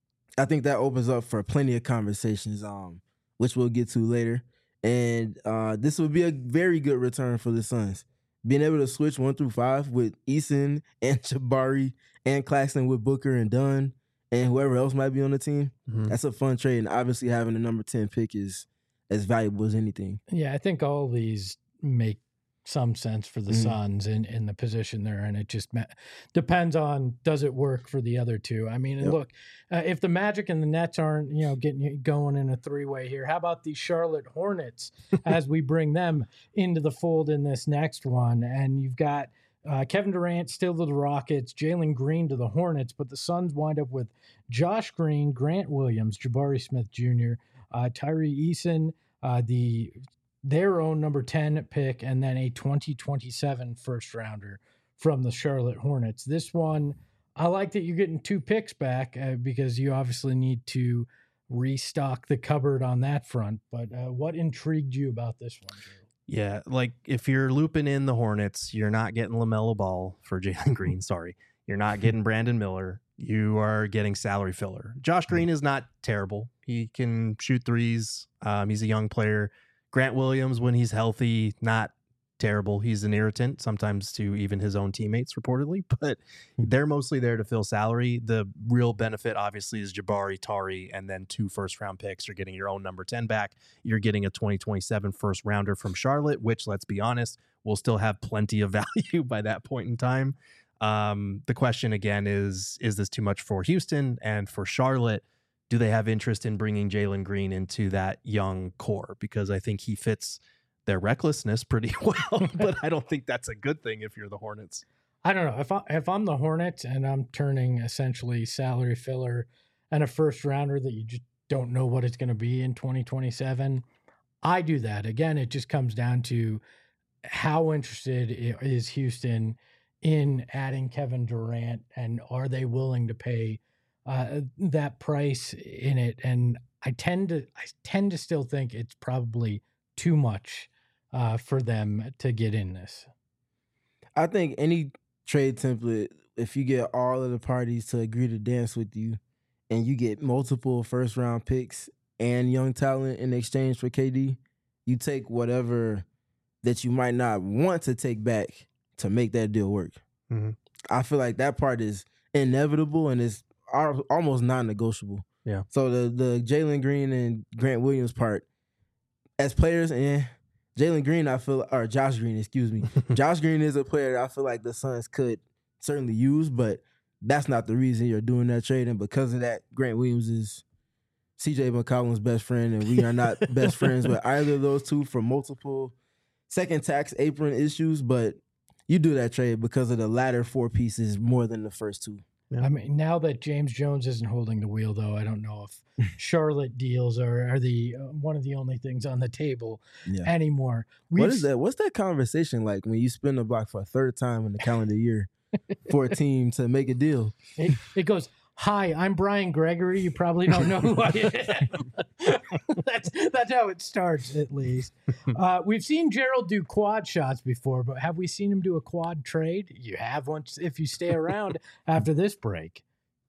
I think that opens up for plenty of conversations, um, which we'll get to later. And uh, this would be a very good return for the Suns. Being able to switch one through five with Eason and Jabari and Claxton with Booker and Dunn and whoever else might be on the team, Mhm. that's a fun trade. And obviously having the number ten pick is as valuable as anything. Yeah, I think all of these make some sense for the Mhm. Suns in, in the position they're in. It just ma- depends on does it work for the other two. I mean, and Yep. look, uh, if the Magic and the Nets aren't you know getting you going in a three way here, how about the Charlotte Hornets as we bring them into the fold in this next one? And you've got uh, Kevin Durant still to the Rockets, Jalen Green to the Hornets, but the Suns wind up with Josh Green, Grant Williams, Jabari Smith Junior, uh, Tyree Eason, uh, the their own number ten pick, and then a twenty twenty-seven first rounder from the Charlotte Hornets. This one, I like that you're getting two picks back uh, because you obviously need to restock the cupboard on that front. But uh, what intrigued you about this one, Drew? Yeah, like if you're looping in the Hornets, you're not getting LaMelo Ball for Jalen Green. Sorry. You're not getting Brandon Miller. You are getting salary filler. Josh Green is not terrible. He can shoot threes. Um, he's a young player. Grant Williams, when he's healthy, not terrible. He's an irritant sometimes to even his own teammates, reportedly, but they're mostly there to fill salary. The real benefit, obviously, is Jabari, Tari, and then two first-round picks. You're getting your own number ten back. You're getting a twenty twenty-seven first-rounder from Charlotte, which, let's be honest, will still have plenty of value by that point in time. Um, the question, again, is, is this too much for Houston? And for Charlotte, do they have interest in bringing Jalen Green into that young core? Because I think he fits their recklessness pretty well, but I don't think that's a good thing if you're the Hornets. I don't know if I, if I'm the Hornets and I'm turning essentially salary filler and a first rounder that you just don't know what it's going to be in twenty twenty-seven. I do that. Again, it just comes down to how interested i- is Houston in adding Kevin Durant, and are they willing to pay uh, that price in it? And I tend to I tend to still think it's probably too much uh, for them to get in this. I think any trade template, if you get all of the parties to agree to dance with you and you get multiple first round picks and young talent in exchange for K D, you take whatever that you might not want to take back to make that deal work. Mhm. I feel like that part is inevitable and is al- almost non-negotiable. Yeah. So the the Jalen Green and Grant Williams part, as players, and Jalen Green, I feel, or Josh Green, excuse me. Josh Green is a player I feel like the Suns could certainly use, but that's not the reason you're doing that trade. And because of that, Grant Williams is C J McCollum's best friend, and we are not best friends with either of those two for multiple second tax apron issues. But you do that trade because of the latter four pieces more than the first two. I mean, now that James Jones isn't holding the wheel, though, I don't know if Charlotte deals are, are the uh, one of the only things on the table Yeah. anymore. We've, What is that? What's that conversation like when you spin the block for a third time in the calendar year for a team to make a deal? It, it goes, hi, I'm Brian Gregory. You probably don't know who I am. that's that's how it starts, at least. Uh, we've seen Gerald do quad shots before, but have we seen him do a quad trade? You have once if you stay around after this break.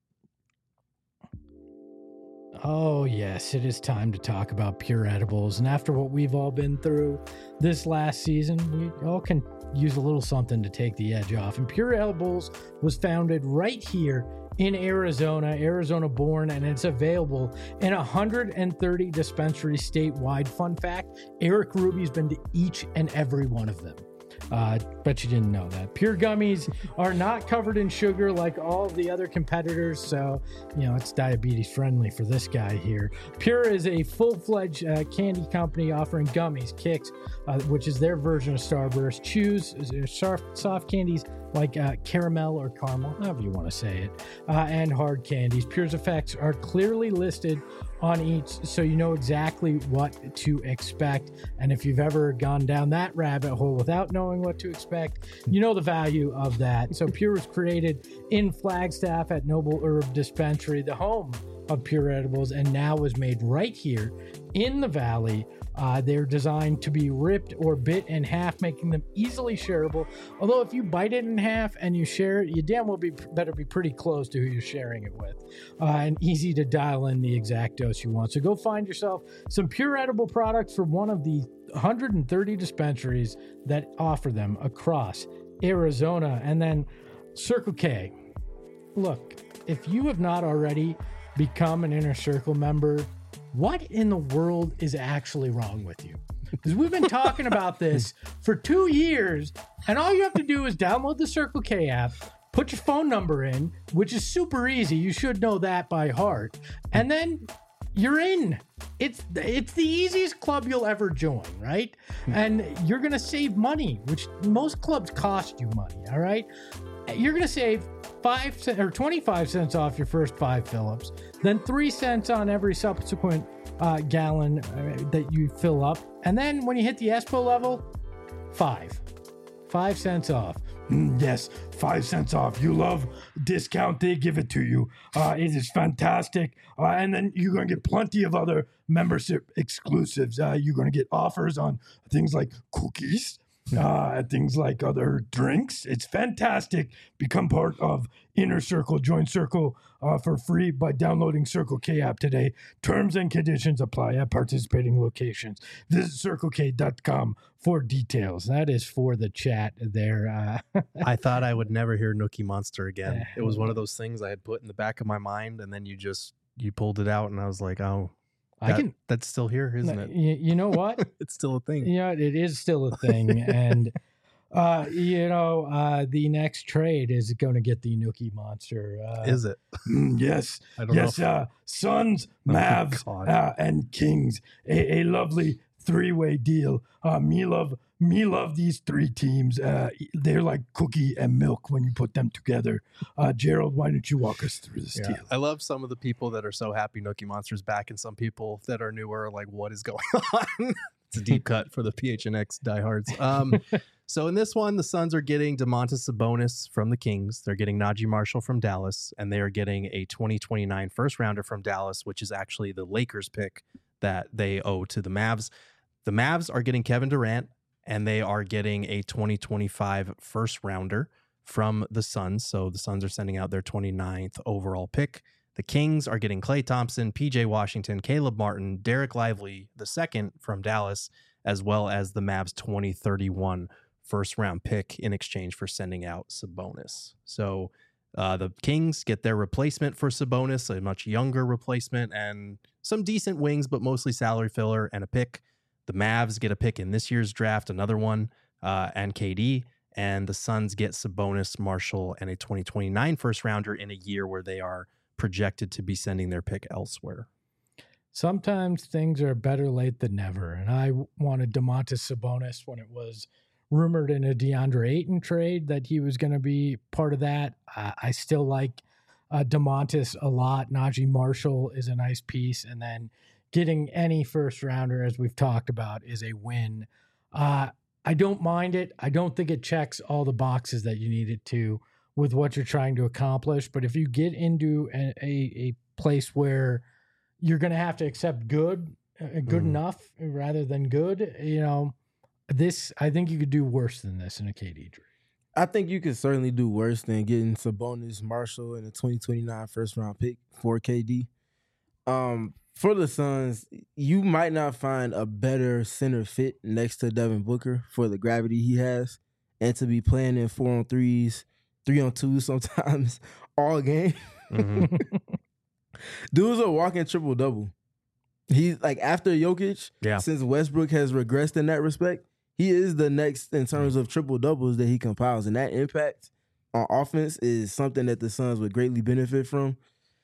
Oh, yes, it is time to talk about Pure Edibles. And after what we've all been through this last season, we all can use a little something to take the edge off. And Pure Edibles was founded right here in Arizona, Arizona born, and it's available in one hundred thirty dispensaries statewide. Fun fact, Eric Ruby's been to each and every one of them. Uh, bet you didn't know that. Pure gummies are not covered in sugar like all of the other competitors, so, you know, it's diabetes friendly for this guy here. Pure is a full-fledged uh, candy company offering gummies, kicks, uh, which is their version of Starburst, chews, soft, soft candies like uh, caramel or caramel, however you want to say it, uh, and hard candies. Pure's effects are clearly listed on each, so you know exactly what to expect. And if you've ever gone down that rabbit hole without knowing what to expect, you know the value of that. So Pure was created in Flagstaff at Noble Herb Dispensary, the home of Pure Edibles, and now was made right here in the Valley. Uh, they're designed to be ripped or bit in half, making them easily shareable. Although if you bite it in half and you share it, you damn well be better be pretty close to who you're sharing it with. Uh, and easy to dial in the exact dose you want. So go find yourself some Pure Edible products from one of the one hundred thirty dispensaries that offer them across Arizona. And then Circle K. Look, if you have not already become an Inner Circle member, what in the world is actually wrong with you? Because we've been talking about this for two years, and all you have to do is download the Circle K app, put your phone number in, which is super easy. You should know that by heart. And then you're in. It's it's the easiest club you'll ever join, right? And you're going to save money, which most clubs cost you money, all right? You're going to save five cents or twenty-five cents off your first five Phillips, then three cents on every subsequent uh, gallon uh, that you fill up. And then when you hit the Espo level, five. Five cents off. Mm, yes, five cents off. You love discount, they give it to you. Uh, it is fantastic. Uh, and then you're going to get plenty of other membership exclusives. Uh, you're going to get offers on things like cookies, uh, things like other drinks. It's fantastic. Become part of Inner Circle. Join Circle uh, for free by downloading Circle K app today. Terms and conditions apply at participating locations. Visit circle k dot com for details. That is for the chat there. Uh, I thought I would never hear Nookie Monster again. It was one of those things I had put in the back of my mind, and then you just you pulled it out, and I was like, oh, that, I can. That's still here, isn't it? You, you know what? It's still a thing. Yeah, it is still a thing, and uh, you know, uh, the next trade is going to get the Nookie Monster. Uh, is it? Yes. I don't yes. know. Uh, Suns, Mavs, Oh, uh, and Kings. A, a lovely three-way deal. Uh, me love, me love these three teams. Uh, they're like cookie and milk when you put them together. Uh, Gerald, why don't you walk us through this Yeah. deal? I love some of the people that are so happy Nookie Monster's back, and some people that are newer are like, what is going on? It's a deep cut for the P H N X diehards. Um, so in this one, the Suns are getting DeMontis Sabonis from the Kings. They're getting Najee Marshall from Dallas, and they are getting a twenty twenty-nine first rounder from Dallas, which is actually the Lakers pick that they owe to the Mavs. The Mavs are getting Kevin Durant, and they are getting a twenty twenty-five first rounder from the Suns. So the Suns are sending out their twenty-ninth overall pick. The Kings are getting Klay Thompson, P J Washington, Caleb Martin, Derek Lively, the second from Dallas, as well as the Mavs twenty thirty-one first round pick in exchange for sending out Sabonis. So uh, the Kings get their replacement for Sabonis, a much younger replacement, and some decent wings, but mostly salary filler and a pick. The Mavs get a pick in this year's draft, another one, uh, and K D. and the Suns get Sabonis, Marshall, and a twenty twenty-nine first rounder in a year where they are projected to be sending their pick elsewhere. Sometimes things are better late than never, and I wanted Domantas Sabonis when it was rumored in a DeAndre Ayton trade that he was going to be part of that. Uh, I still like uh, Domantas a lot. Najee Marshall is a nice piece, and then getting any first rounder, as we've talked about, is a win. Uh, I don't mind it. I don't think it checks all the boxes that you need it to with what you're trying to accomplish. But if you get into a, a, a place where you're going to have to accept good, uh, good mm. enough rather than good, you know, this, I think you could do worse than this in a K D trade. I think you could certainly do worse than getting Sabonis, Marshall, and a twenty twenty-nine first round pick for K D. Um, for the Suns, you might not find a better center fit next to Devin Booker for the gravity he has, and to be playing in four on threes, three on twos sometimes all game. Mm-hmm. Dude's a walking triple double. He's like, after Jokic, yeah. since Westbrook has regressed in that respect, he is the next in terms of triple doubles that he compiles, and that impact on offense is something that the Suns would greatly benefit from.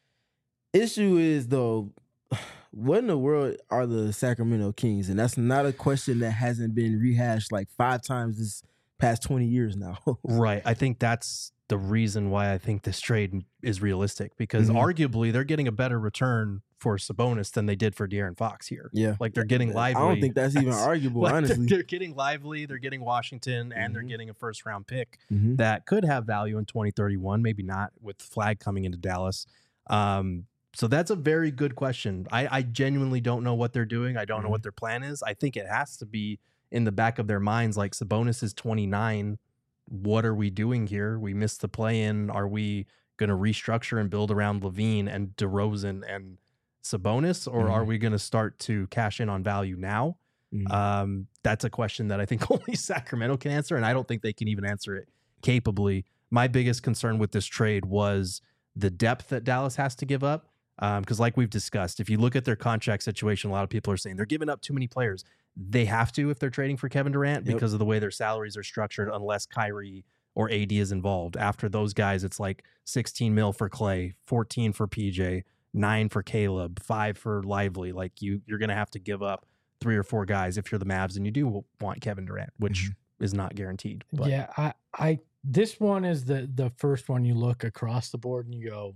Issue is, though, what in the world are the Sacramento Kings? And that's not a question that hasn't been rehashed like five times this past twenty years now. Right. I think that's the reason why I think this trade is realistic, because mm-hmm. arguably they're getting a better return for Sabonis than they did for De'Aaron Fox here. Yeah. Like, they're getting Lively. I don't think that's even arguable, like honestly. They're, they're getting Lively, they're getting Washington, and mm-hmm. they're getting a first round pick mm-hmm. that could have value in twenty thirty-one, maybe not with Flag coming into Dallas. Um, so that's a very good question. I, I genuinely don't know what they're doing. I don't mm-hmm. know what their plan is. I think it has to be in the back of their minds, like, Sabonis is twenty-nine. What are we doing here? We missed the play-in. Are we going to restructure and build around Levine and DeRozan and Sabonis, or mm-hmm. are we going to start to cash in on value now? Mm-hmm. Um, that's a question that I think only Sacramento can answer, and I don't think they can even answer it capably. My biggest concern with this trade was the depth that Dallas has to give up, because um, like we've discussed, if you look at their contract situation, a lot of people are saying they're giving up too many players. They have to if they're trading for Kevin Durant yep. because of the way their salaries are structured, unless Kyrie or A D is involved. After those guys, it's like sixteen mil for Clay, fourteen for P J, nine for Caleb, five for Lively. Like, you, you're going to have to give up three or four guys if you're the Mavs and you do want Kevin Durant, which mm-hmm. is not guaranteed. But. Yeah, I, I, this one is the the first one you look across the board and you go,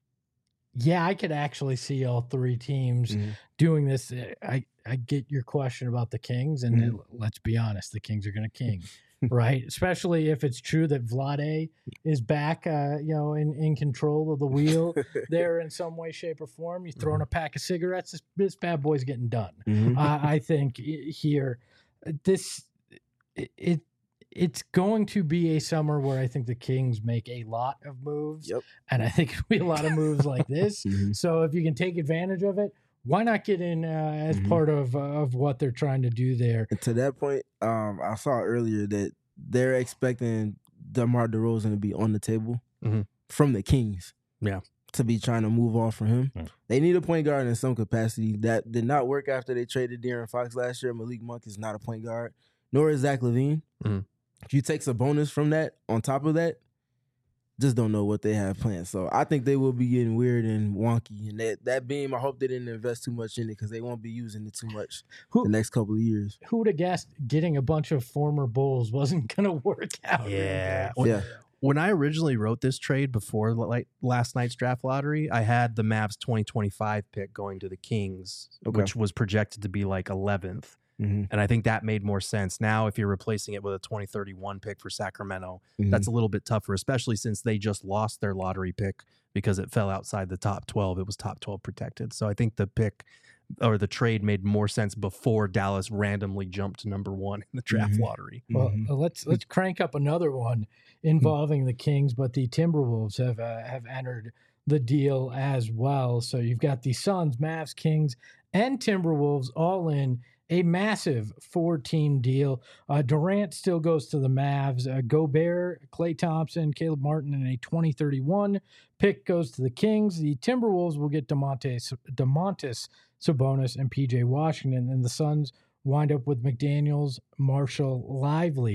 yeah, I could actually see all three teams mm-hmm. doing this. I, I get your question about the Kings, and mm-hmm. let's be honest, the Kings are going to king, right? Especially if it's true that Vlade is back, uh, you know, in, in control of the wheel there in some way, shape, or form. You throw in mm-hmm. a pack of cigarettes, this, this bad boy's getting done. Mm-hmm. uh, I think here, this it, it it's going to be a summer where I think the Kings make a lot of moves, yep. and I think it'll be a lot of moves like this. Mm-hmm. So if you can take advantage of it, why not get in uh, as mm-hmm. part of uh, of what they're trying to do there? And to that point, um, I saw earlier that they're expecting DeMar DeRozan to be on the table mm-hmm. from the Kings. Yeah. To be trying to move off from him. Mm. They need a point guard in some capacity. That did not work after they traded De'Aaron Fox last year. Malik Monk is not a point guard, nor is Zach LaVine. Mm-hmm. If you take a bonus from that, on top of that, just don't know what they have planned. So I think they will be getting weird and wonky. And that, that beam, I hope they didn't invest too much in it, because they won't be using it too much who, the next couple of years. Who would have guessed getting a bunch of former Bulls wasn't going to work out? Yeah. When, yeah. When I originally wrote this trade before like last night's draft lottery, I had the Mavs twenty twenty-five pick going to the Kings, okay. which was projected to be like eleventh. Mm-hmm. And I think that made more sense. Now, if you're replacing it with a twenty thirty-one pick for Sacramento, mm-hmm. that's a little bit tougher, especially since they just lost their lottery pick because it fell outside the top twelve. It was top twelve protected. So I think the pick or the trade made more sense before Dallas randomly jumped to number one in the draft mm-hmm. lottery. Well, mm-hmm. uh, let's let's crank up another one involving the Kings, but the Timberwolves have uh, have entered the deal as well. So you've got the Suns, Mavs, Kings, and Timberwolves all in a massive four-team deal. Uh, Durant still goes to the Mavs. Uh, Gobert, Klay Thompson, Caleb Martin, and a twenty thirty-one pick goes to the Kings. The Timberwolves will get DeMontis, DeMontis Sabonis and P J Washington, and the Suns wind up with McDaniels, Marshall, Lively,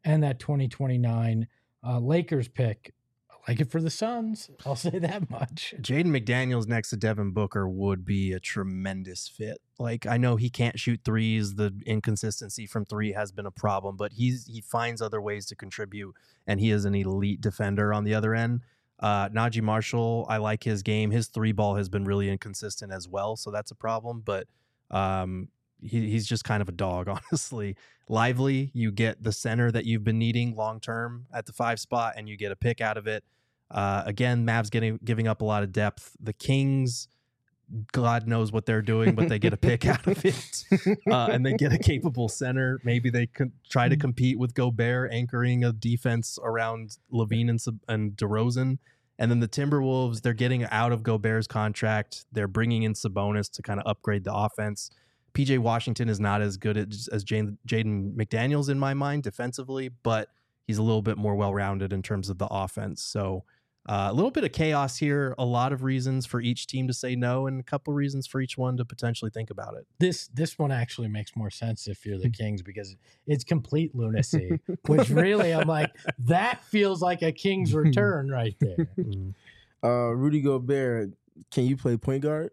and that twenty twenty-nine uh, Lakers pick. I like it for the Suns. I'll say that much. Jaden McDaniels next to Devin Booker would be a tremendous fit. Like, I know he can't shoot threes. The inconsistency from three has been a problem, but he's he finds other ways to contribute, and he is an elite defender on the other end. Uh, Najee Marshall, I like his game. His three ball has been really inconsistent as well, so that's a problem. But um, he, he's just kind of a dog, honestly. Lively, you get the center that you've been needing long term at the five spot, and you get a pick out of it. Uh, again, Mavs getting giving up a lot of depth. The Kings, God knows what they're doing, but they get a pick out of it, uh, and they get a capable center. Maybe they could try to compete with Gobert, anchoring a defense around Levine and, and DeRozan. And then the Timberwolves, they're getting out of Gobert's contract. They're bringing in Sabonis to kind of upgrade the offense. P J Washington is not as good as, as Jaden McDaniels in my mind defensively, but he's a little bit more well-rounded in terms of the offense. So uh, a little bit of chaos here, a lot of reasons for each team to say no, and a couple reasons for each one to potentially think about it. This this one actually makes more sense if you're the Kings, because it's complete lunacy, which really I'm like, that feels like a Kings return right there. Uh, Rudy Gobert, can you play point guard?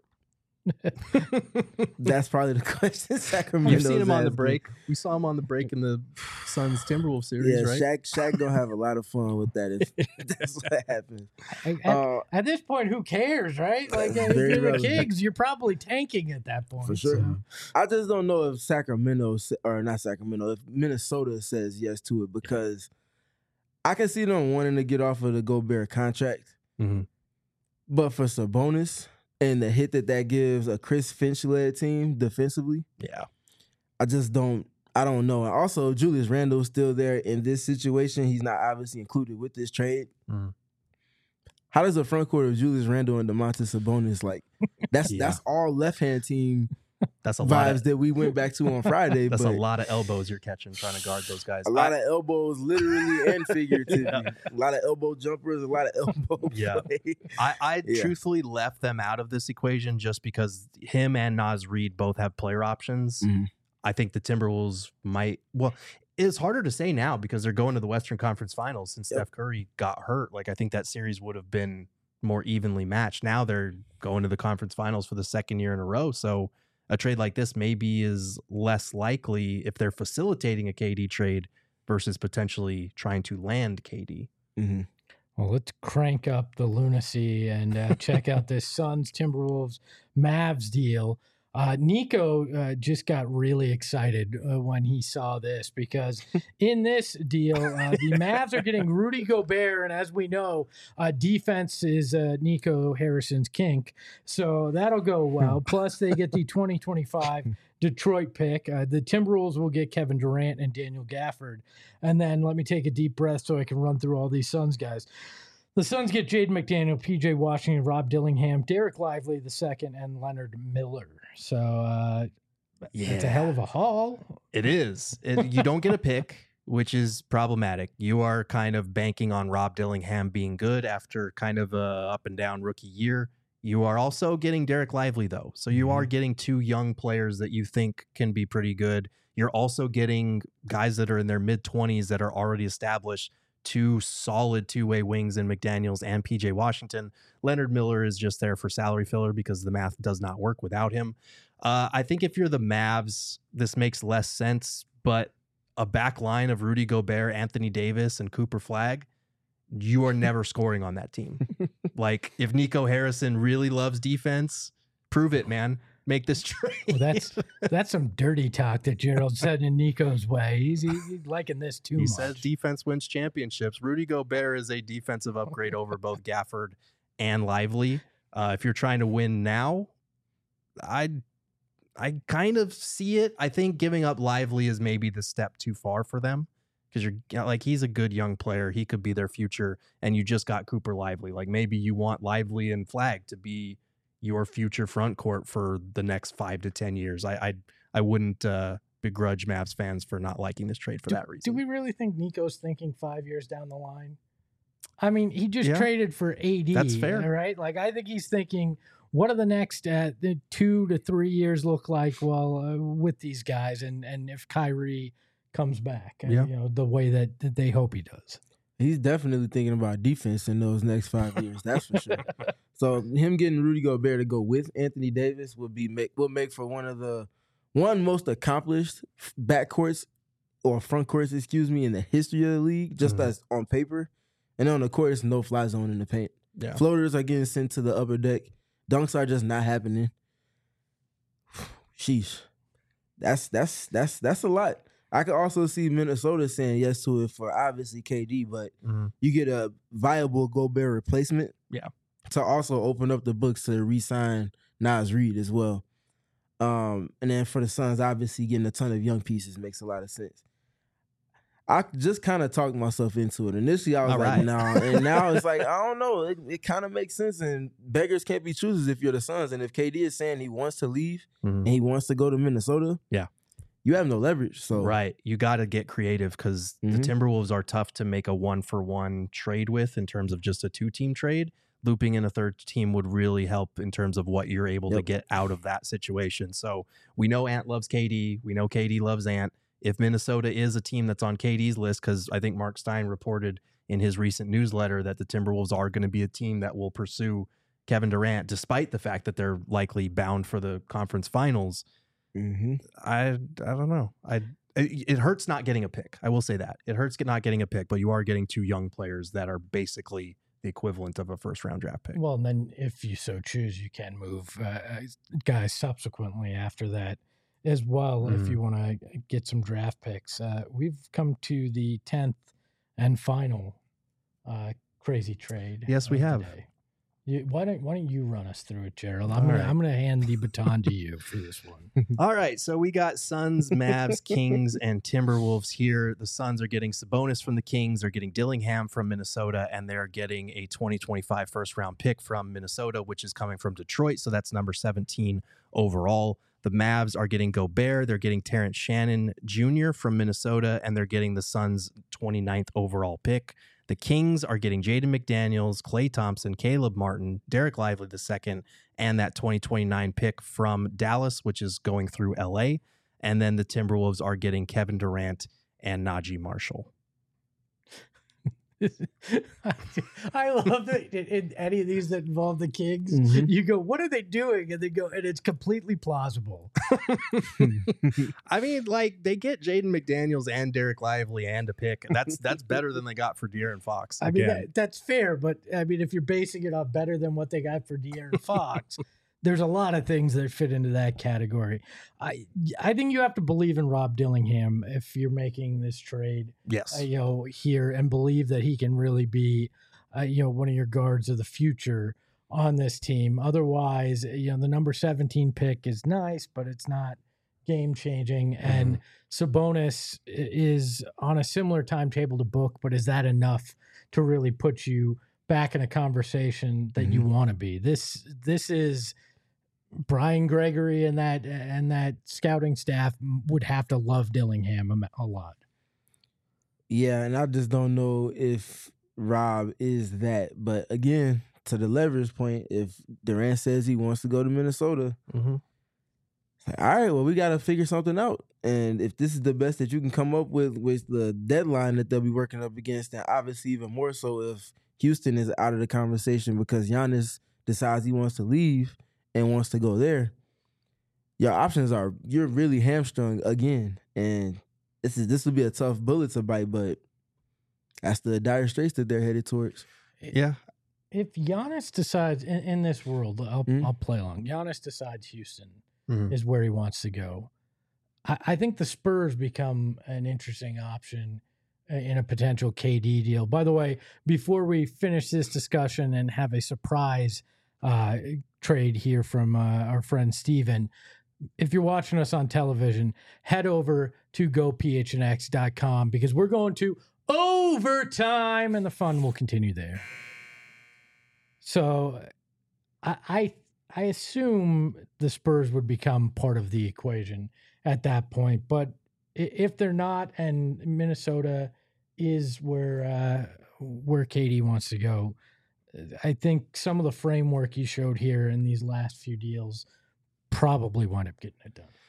That's probably the question. Sacramento. You've seen him on the break. We saw him on the break in the Suns Timberwolves series, yeah, right? Shaq, Shaq gonna have a lot of fun with that if that's what happens. At, Uh, at this point, who cares, right? Like, if Very you're the relevant. Kings, you're probably tanking at that point. For sure. so. I just don't know if Sacramento sa- or not Sacramento, if Minnesota says yes to it, because I can see them wanting to get off of the Gobert contract, Mhm. but for Sabonis and the hit that that gives a Chris Finch-led team defensively, Yeah. I just don't. I don't know. And also, Julius Randle's still there in this situation. He's not obviously included with this trade. Mhm. How does the front court of Julius Randle and Domantas Sabonis, like, that's Yeah. that's all left hand team That's a lot vibes of, that we went back to on Friday. that's but a lot of elbows you're catching trying to guard those guys. a lot I- of elbows, literally and figuratively. A lot of elbow jumpers, a lot of elbow Yeah. play. I, I Yeah. truthfully left them out of this equation just because him and Naz Reid both have player options. Mhm. I think the Timberwolves might, well, it's harder to say now because they're going to the Western Conference Finals since Yep. Steph Curry got hurt. Like, I think that series would have been more evenly matched. Now they're going to the conference finals for the second year in a row. So a trade like this maybe is less likely if they're facilitating a K D trade versus potentially trying to land K D. Mhm. Well, let's crank up the lunacy and uh, check out this Suns, Timberwolves, Mavs deal. Uh, Nico uh, just got really excited uh, when he saw this, because in this deal, uh, the Mavs are getting Rudy Gobert, and as we know, uh, defense is uh, Nico Harrison's kink, so that'll go well. Plus, they get the twenty twenty-five Detroit pick. Uh, the Timberwolves will get Kevin Durant and Daniel Gafford, and then let me take a deep breath so I can run through all these Suns guys. The Suns get Jaden McDaniel, P J Washington, Rob Dillingham, Derek Lively the second, and Leonard Miller. So uh, it's a hell of a haul. It is. It, you don't get a pick, which is problematic. You are kind of banking on Rob Dillingham being good after kind of a up and down rookie year. You are also getting Derek Lively, though. So you are getting two young players that you think can be pretty good. You're also getting guys that are in their mid-twenties that are already established, two solid two-way wings in McDaniels and P J Washington. Leonard Miller is just there for salary filler because the math does not work without him. Uh, I think if you're the Mavs, this makes less sense, but a back line of Rudy Gobert, Anthony Davis, and Cooper Flagg, you are never scoring on that team. Like, if Nico Harrison really loves defense, prove it, man. Make this trade. Well, that's that's some dirty talk that Gerald said in Nico's way. He's, he's liking this too He much. says defense wins championships. Rudy Gobert is a defensive upgrade over both Gafford and Lively. Uh, if you're trying to win now, I I kind of see it. I think giving up Lively is maybe the step too far for them, because you're like, he's a good young player. He could be their future, and you just got Cooper Lively. Like, maybe you want Lively and Flagg to be your future front court for the next five to ten years. I I, I wouldn't uh, begrudge Mavs fans for not liking this trade for do, that reason. Do we really think Nico's thinking five years down the line? I mean, he just Yeah. traded for A D. That's fair. Right? Like, I think he's thinking, what do the next uh, the two to three years look like? Well, uh, with these guys, and and if Kyrie comes back. uh, Yeah. You know, the way that, that they hope he does. He's definitely thinking about defense in those next five years. That's for sure. So him getting Rudy Gobert to go with Anthony Davis would be make will make for one of the one most accomplished backcourts or front courts, excuse me, in the history of the league, just Mhm. as on paper. And on the court, it's no fly zone in the paint. Yeah. Floaters are getting sent to the upper deck. Dunks are just not happening. Sheesh. That's that's that's that's a lot. I could also see Minnesota saying yes to it for obviously K D, but Mhm. you get a viable Gobert replacement. Yeah. To also open up the books to re-sign Nas Reed as well. Um, and then for the Suns, obviously getting a ton of young pieces makes a lot of sense. I just kind of talked myself into it. Initially, I was All like, right. no. And now it's like, I don't know. It, it kind of makes sense. And beggars can't be choosers if you're the Suns. And if K D is saying he wants to leave Mhm. and he wants to go to Minnesota, Yeah. you have no leverage. So Right. You got to get creative because the Mhm. Timberwolves are tough to make a one for one trade with in terms of just a two team trade. Looping in a third team would really help in terms of what you're able to Yep. get out of that situation. So we know Ant loves K D. We know K D loves Ant. If Minnesota is a team that's on K D's list, because I think Mark Stein reported in his recent newsletter that the Timberwolves are going to be a team that will pursue Kevin Durant, despite the fact that they're likely bound for the conference finals. mhm. I I don't know. I it, it hurts not getting a pick. I will say that it hurts get not getting a pick, but you are getting two young players that are basically the equivalent of a first round draft pick. Well, and then if you so choose, you can move uh, guys subsequently after that as well if Mhm. you want to get some draft picks. Uh, we've come to the tenth and final uh, crazy trade. Yes, we of the have. day. You, why don't Why don't you run us through it, Gerald? I'm All gonna right. I'm gonna hand the baton to you for this one. All right, so we got Suns, Mavs, Kings, and Timberwolves here. The Suns are getting Sabonis from the Kings, they're getting Dillingham from Minnesota, and they're getting a twenty twenty-five first round pick from Minnesota, which is coming from Detroit. So that's number seventeen overall. The Mavs are getting Gobert, they're getting Terrence Shannon Junior from Minnesota, and they're getting the Suns' twenty-ninth overall pick. The Kings are getting Jaden McDaniels, Klay Thompson, Caleb Martin, Derek Lively the second, and that twenty twenty-nine pick from Dallas, which is going through L A. And then the Timberwolves are getting Kevin Durant and Najee Marshall. I love that in, in any of these that involve the Kings, Mhm. you go, "What are they doing?" And they go, and it's completely plausible. I mean, like they get Jaden McDaniels and Derek Lively and a pick. That's that's better than they got for De'Aaron Fox. I mean, Again. that, that's fair, but I mean, if you're basing it on better than what they got for De'Aaron Fox, there's a lot of things that fit into that category. I I think you have to believe in Rob Dillingham if you're making this trade, yes. uh, you know, here, and believe that he can really be, uh, you know, one of your guards of the future on this team. Otherwise, you know, the number seventeen pick is nice, but it's not game changing. And Sabonis i- is on a similar timetable to Book, but is that enough to really put you back in a conversation that you Mhm. want to be? This this is Brian Gregory and that and that scouting staff would have to love Dillingham a, a lot. Yeah, and I just don't know if Rob is that. But again, to the leverage point, if Durant says he wants to go to Minnesota, Mm-hmm. it's like, all right, well, we got to figure something out. And if this is the best that you can come up with with the deadline that they'll be working up against, then obviously even more so if Houston is out of the conversation because Giannis decides he wants to leave and wants to go there, your options are you're really hamstrung again. And this is this will be a tough bullet to bite, but that's the dire straits that they're headed towards. Yeah. If Giannis decides in, in this world, I'll Mhm. I'll play along. Giannis decides Houston Mhm. is where he wants to go. I, I think the Spurs become an interesting option in a potential K D deal. By the way, before we finish this discussion and have a surprise uh, trade here from uh, our friend Steven, if you're watching us on television, head over to go p h n x dot com because we're going to overtime and the fun will continue there. So I, I I assume the Spurs would become part of the equation at that point. But i- if they're not, and Minnesota is where uh, where K D wants to go, I think some of the framework he showed here in these last few deals probably wind up getting it done.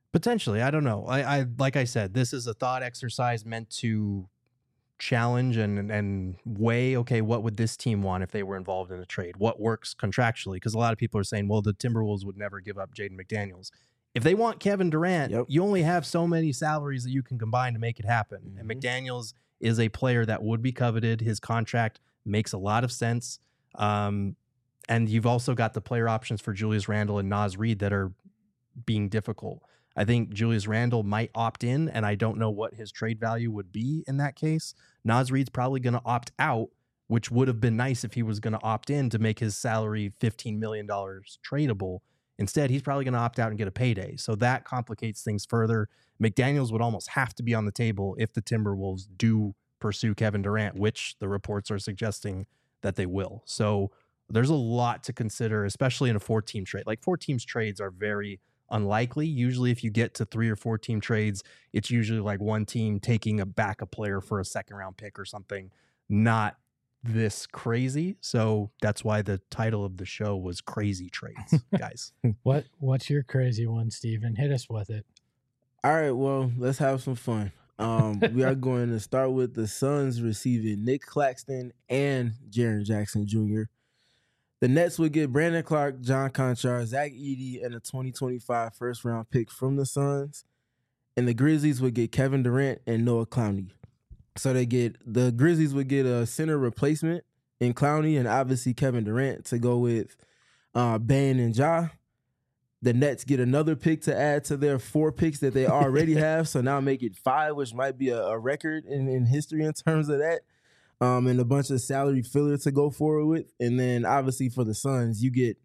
Potentially, I don't know. I, I like I said, this is a thought exercise meant to challenge and and weigh. Okay, what would this team want if they were involved in a trade? What works contractually? Because a lot of people are saying, well, the Timberwolves would never give up Jaden McDaniels. If they want Kevin Durant, Yep. you only have so many salaries that you can combine to make it happen. Mm-hmm. And McDaniels is a player that would be coveted. His contract makes a lot of sense. Um, and you've also got the player options for Julius Randle and Naz Reid that are being difficult. I think Julius Randle might opt in, and I don't know what his trade value would be in that case. Naz Reid's probably going to opt out, which would have been nice if he was going to opt in to make his salary fifteen million dollars tradable. Instead, he's probably going to opt out and get a payday. So that complicates things further. McDaniels would almost have to be on the table if the Timberwolves do pursue Kevin Durant, which the reports are suggesting that they will. So there's a lot to consider, especially in a four-team trade. Like four teams trades are very unlikely. Usually if you get to three or four team trades, it's usually like one team taking a backup player for a second round pick or something. Not this crazy. So that's why the title of the show was Crazy Trades, guys. What What's your crazy one, Steven? Hit us with it. All right, well, let's have some fun. Um, we are going to start with the Suns receiving Nick Claxton and Jaren Jackson Junior The Nets would get Brandon Clark, John Conchar, Zach Edey, and a twenty twenty-five first-round pick from the Suns. And the Grizzlies would get Kevin Durant and Noah Clowney. So they get the Grizzlies would get a center replacement in Clowney and obviously Kevin Durant to go with uh, Bane and Ja. The Nets get another pick to add to their four picks that they already have. So now make it five, which might be a, a record in, in history in terms of that. Um, and a bunch of salary filler to go forward with. And then obviously for the Suns, you get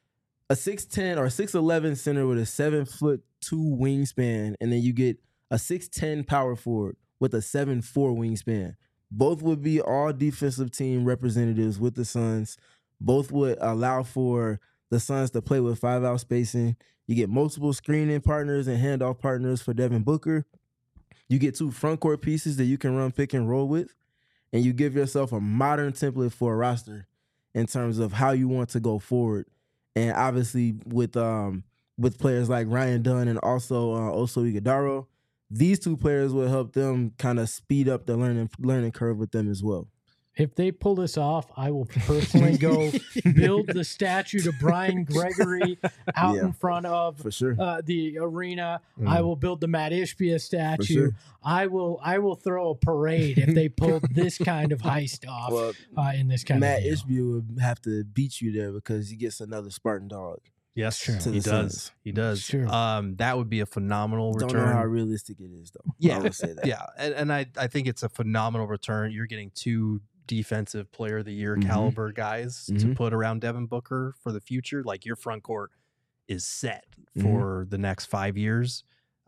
a six ten or six eleven center with a seven foot two wingspan. And then you get a six ten power forward with a seven four wingspan. Both would be all defensive team representatives with the Suns. Both would allow for the Suns to play with five-out spacing. You get multiple screening partners and handoff partners for Devin Booker. You get two front court pieces that you can run pick and roll with. And you give yourself a modern template for a roster in terms of how you want to go forward. And obviously with um, with players like Ryan Dunn and also uh, Oso Ighodaro, these two players will help them kind of speed up the learning learning curve with them as well. If they pull this off, I will personally go build the statue to Brian Gregory out Yeah, in front of for sure. uh, the arena. Mm. I will build the Matt Ishbia statue. sure. I will I will throw a parade if they pull this kind of heist off Well, uh, in this kind Matt of deal. Ishbia would have to beat you there because he gets another Spartan dog. Yes, Sure. To he the does. Suns. He does. Sure. Um, that would be a phenomenal Don't return. know how realistic it is, though. Yeah, I will say that. Yeah, and, and I, I think it's a phenomenal return. You're getting two defensive player of the year Mhm. caliber guys to Mhm. put around Devin Booker for the future. Like your front court is set Mhm. for the next five years.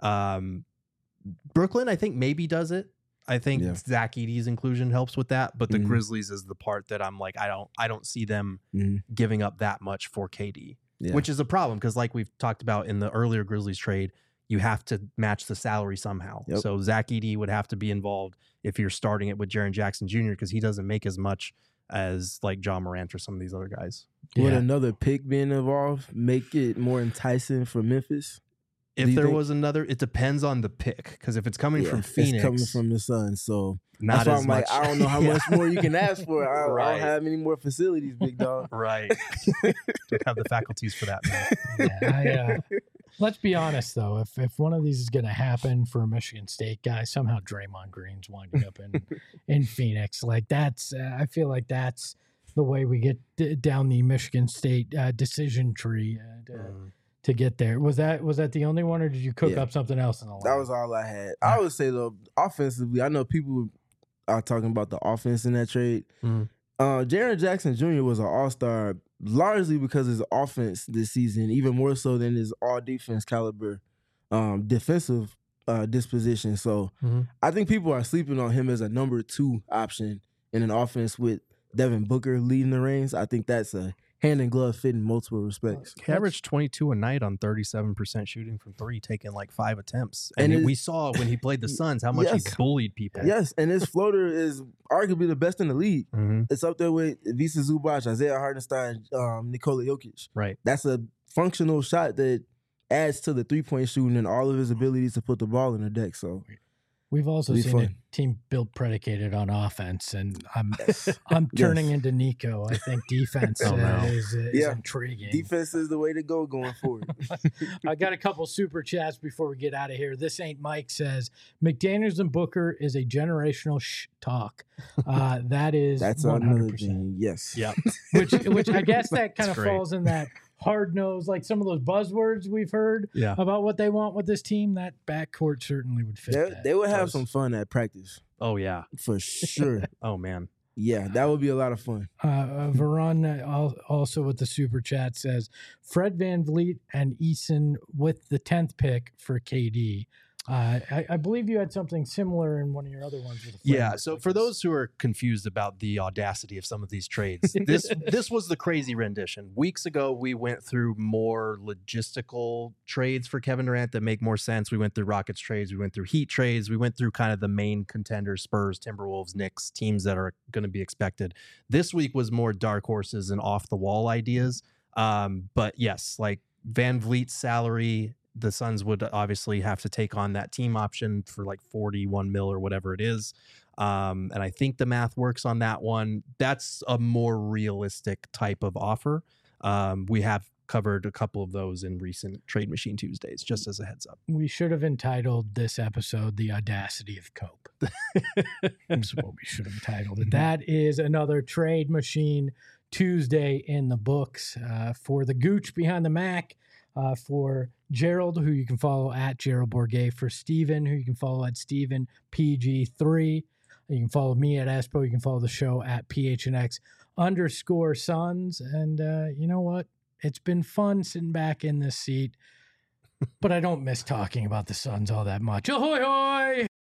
Um, Brooklyn, I think maybe does it. I think Yeah. Zach Edey's inclusion helps with that, but the Mhm. Grizzlies is the part that I'm like, I don't, I don't see them Mhm. giving up that much for K D, Yeah. which is a problem because, like we've talked about in the earlier Grizzlies trade, you have to match the salary somehow. Yep. So Zach Edey would have to be involved if you're starting it with Jaren Jackson Junior because he doesn't make as much as like John Morant or some of these other guys. Would Yeah. another pick being involved make it more enticing for Memphis? Do If you there think- was another, it depends on the pick because if it's coming Yeah, from Phoenix, it's coming from the Suns, so not that's why as I'm much. like, I don't know how Yeah. much more you can ask for. I, I Right. don't have any more facilities, big dog. Right. Don't have the faculties for that, man. Yeah, I, uh, let's be honest though. If if one of these is going to happen for a Michigan State guy, somehow Draymond Green's winding up in in Phoenix. Like that's, uh, I feel like that's the way we get d- down the Michigan State uh, decision tree uh, to, Mm. to get there. Was that was that the only one, or did you cook Yeah. up something else in the line? That was all I had. I would say though, offensively, I know people are talking about the offense in that trade. Mhm. Uh, Jaren Jackson Junior was an all-star largely because of his offense this season, even more so than his all-defense caliber um, defensive uh, disposition. So Mhm. I think people are sleeping on him as a number two option in an offense with Devin Booker leading the reins. I think that's a hand in glove fit in multiple respects. He averaged twenty-two a night on thirty-seven percent shooting from three, taking like five attempts. And And, it- we saw when he played the Suns how much Yes. he bullied people. Yes, and his floater is arguably the best in the league. Mhm. It's up there with Visa Zubac, Isaiah Hartenstein, um, Nikola Jokic. Right. That's a functional shot that adds to the three point shooting and all of his abilities to put the ball in the deck. So we've also It'll be seen a fun. team built predicated on offense, and I'm I'm turning Yes. into Nico. I think defense Oh, uh, no. is, is Yeah. intriguing. defense is the way to go going forward. I got a couple super chats before we get out of here. This ain't Mike says McDaniels and Booker is a generational sh- talk. Uh, that is That's one another hundred percent. thing. Yes. Yep. Which which I guess that kind That's of great. falls in that hard nose, like some of those buzzwords we've heard Yeah. about what they want with this team. That backcourt certainly would fit. They, that. they would have does. some fun at practice Oh yeah. for sure. Oh man. Yeah, that would be a lot of fun. Uh, uh, Veron uh, al- also with the super chat says Fred Van Vliet and Eason with the tenth pick for K D. Uh, I, I believe you had something similar in one of your other ones. With the Yeah. framework So like for this. those who are confused about the audacity of some of these trades, this this was the crazy rendition. Weeks ago, we went through more logistical trades for Kevin Durant that make more sense. We went through Rockets trades, we went through Heat trades, we went through kind of the main contenders: Spurs, Timberwolves, Knicks, teams that are going to be expected. This week was more dark horses and off the wall ideas. Um, but yes, like Van Vliet's salary. The Suns would obviously have to take on that team option for like forty-one mil or whatever it is. Um, and I think the math works on that one. That's a more realistic type of offer. Um, we have covered a couple of those in recent Trade Machine Tuesdays, just as a heads up. we should have entitled this episode "The Audacity of Cope." That's what we should have titled it. That is another Trade Machine Tuesday in the books. Uh, for the Gooch behind the Mac, uh, for Gerald, who you can follow at Gerald Bourget, for Steven, who you can follow at Steven P G three. You can follow me at Espo. You can follow the show at P H N X underscore Suns. And uh, you know what? It's been fun sitting back in this seat, but I don't miss talking about the Suns all that much. Ahoy, hoy!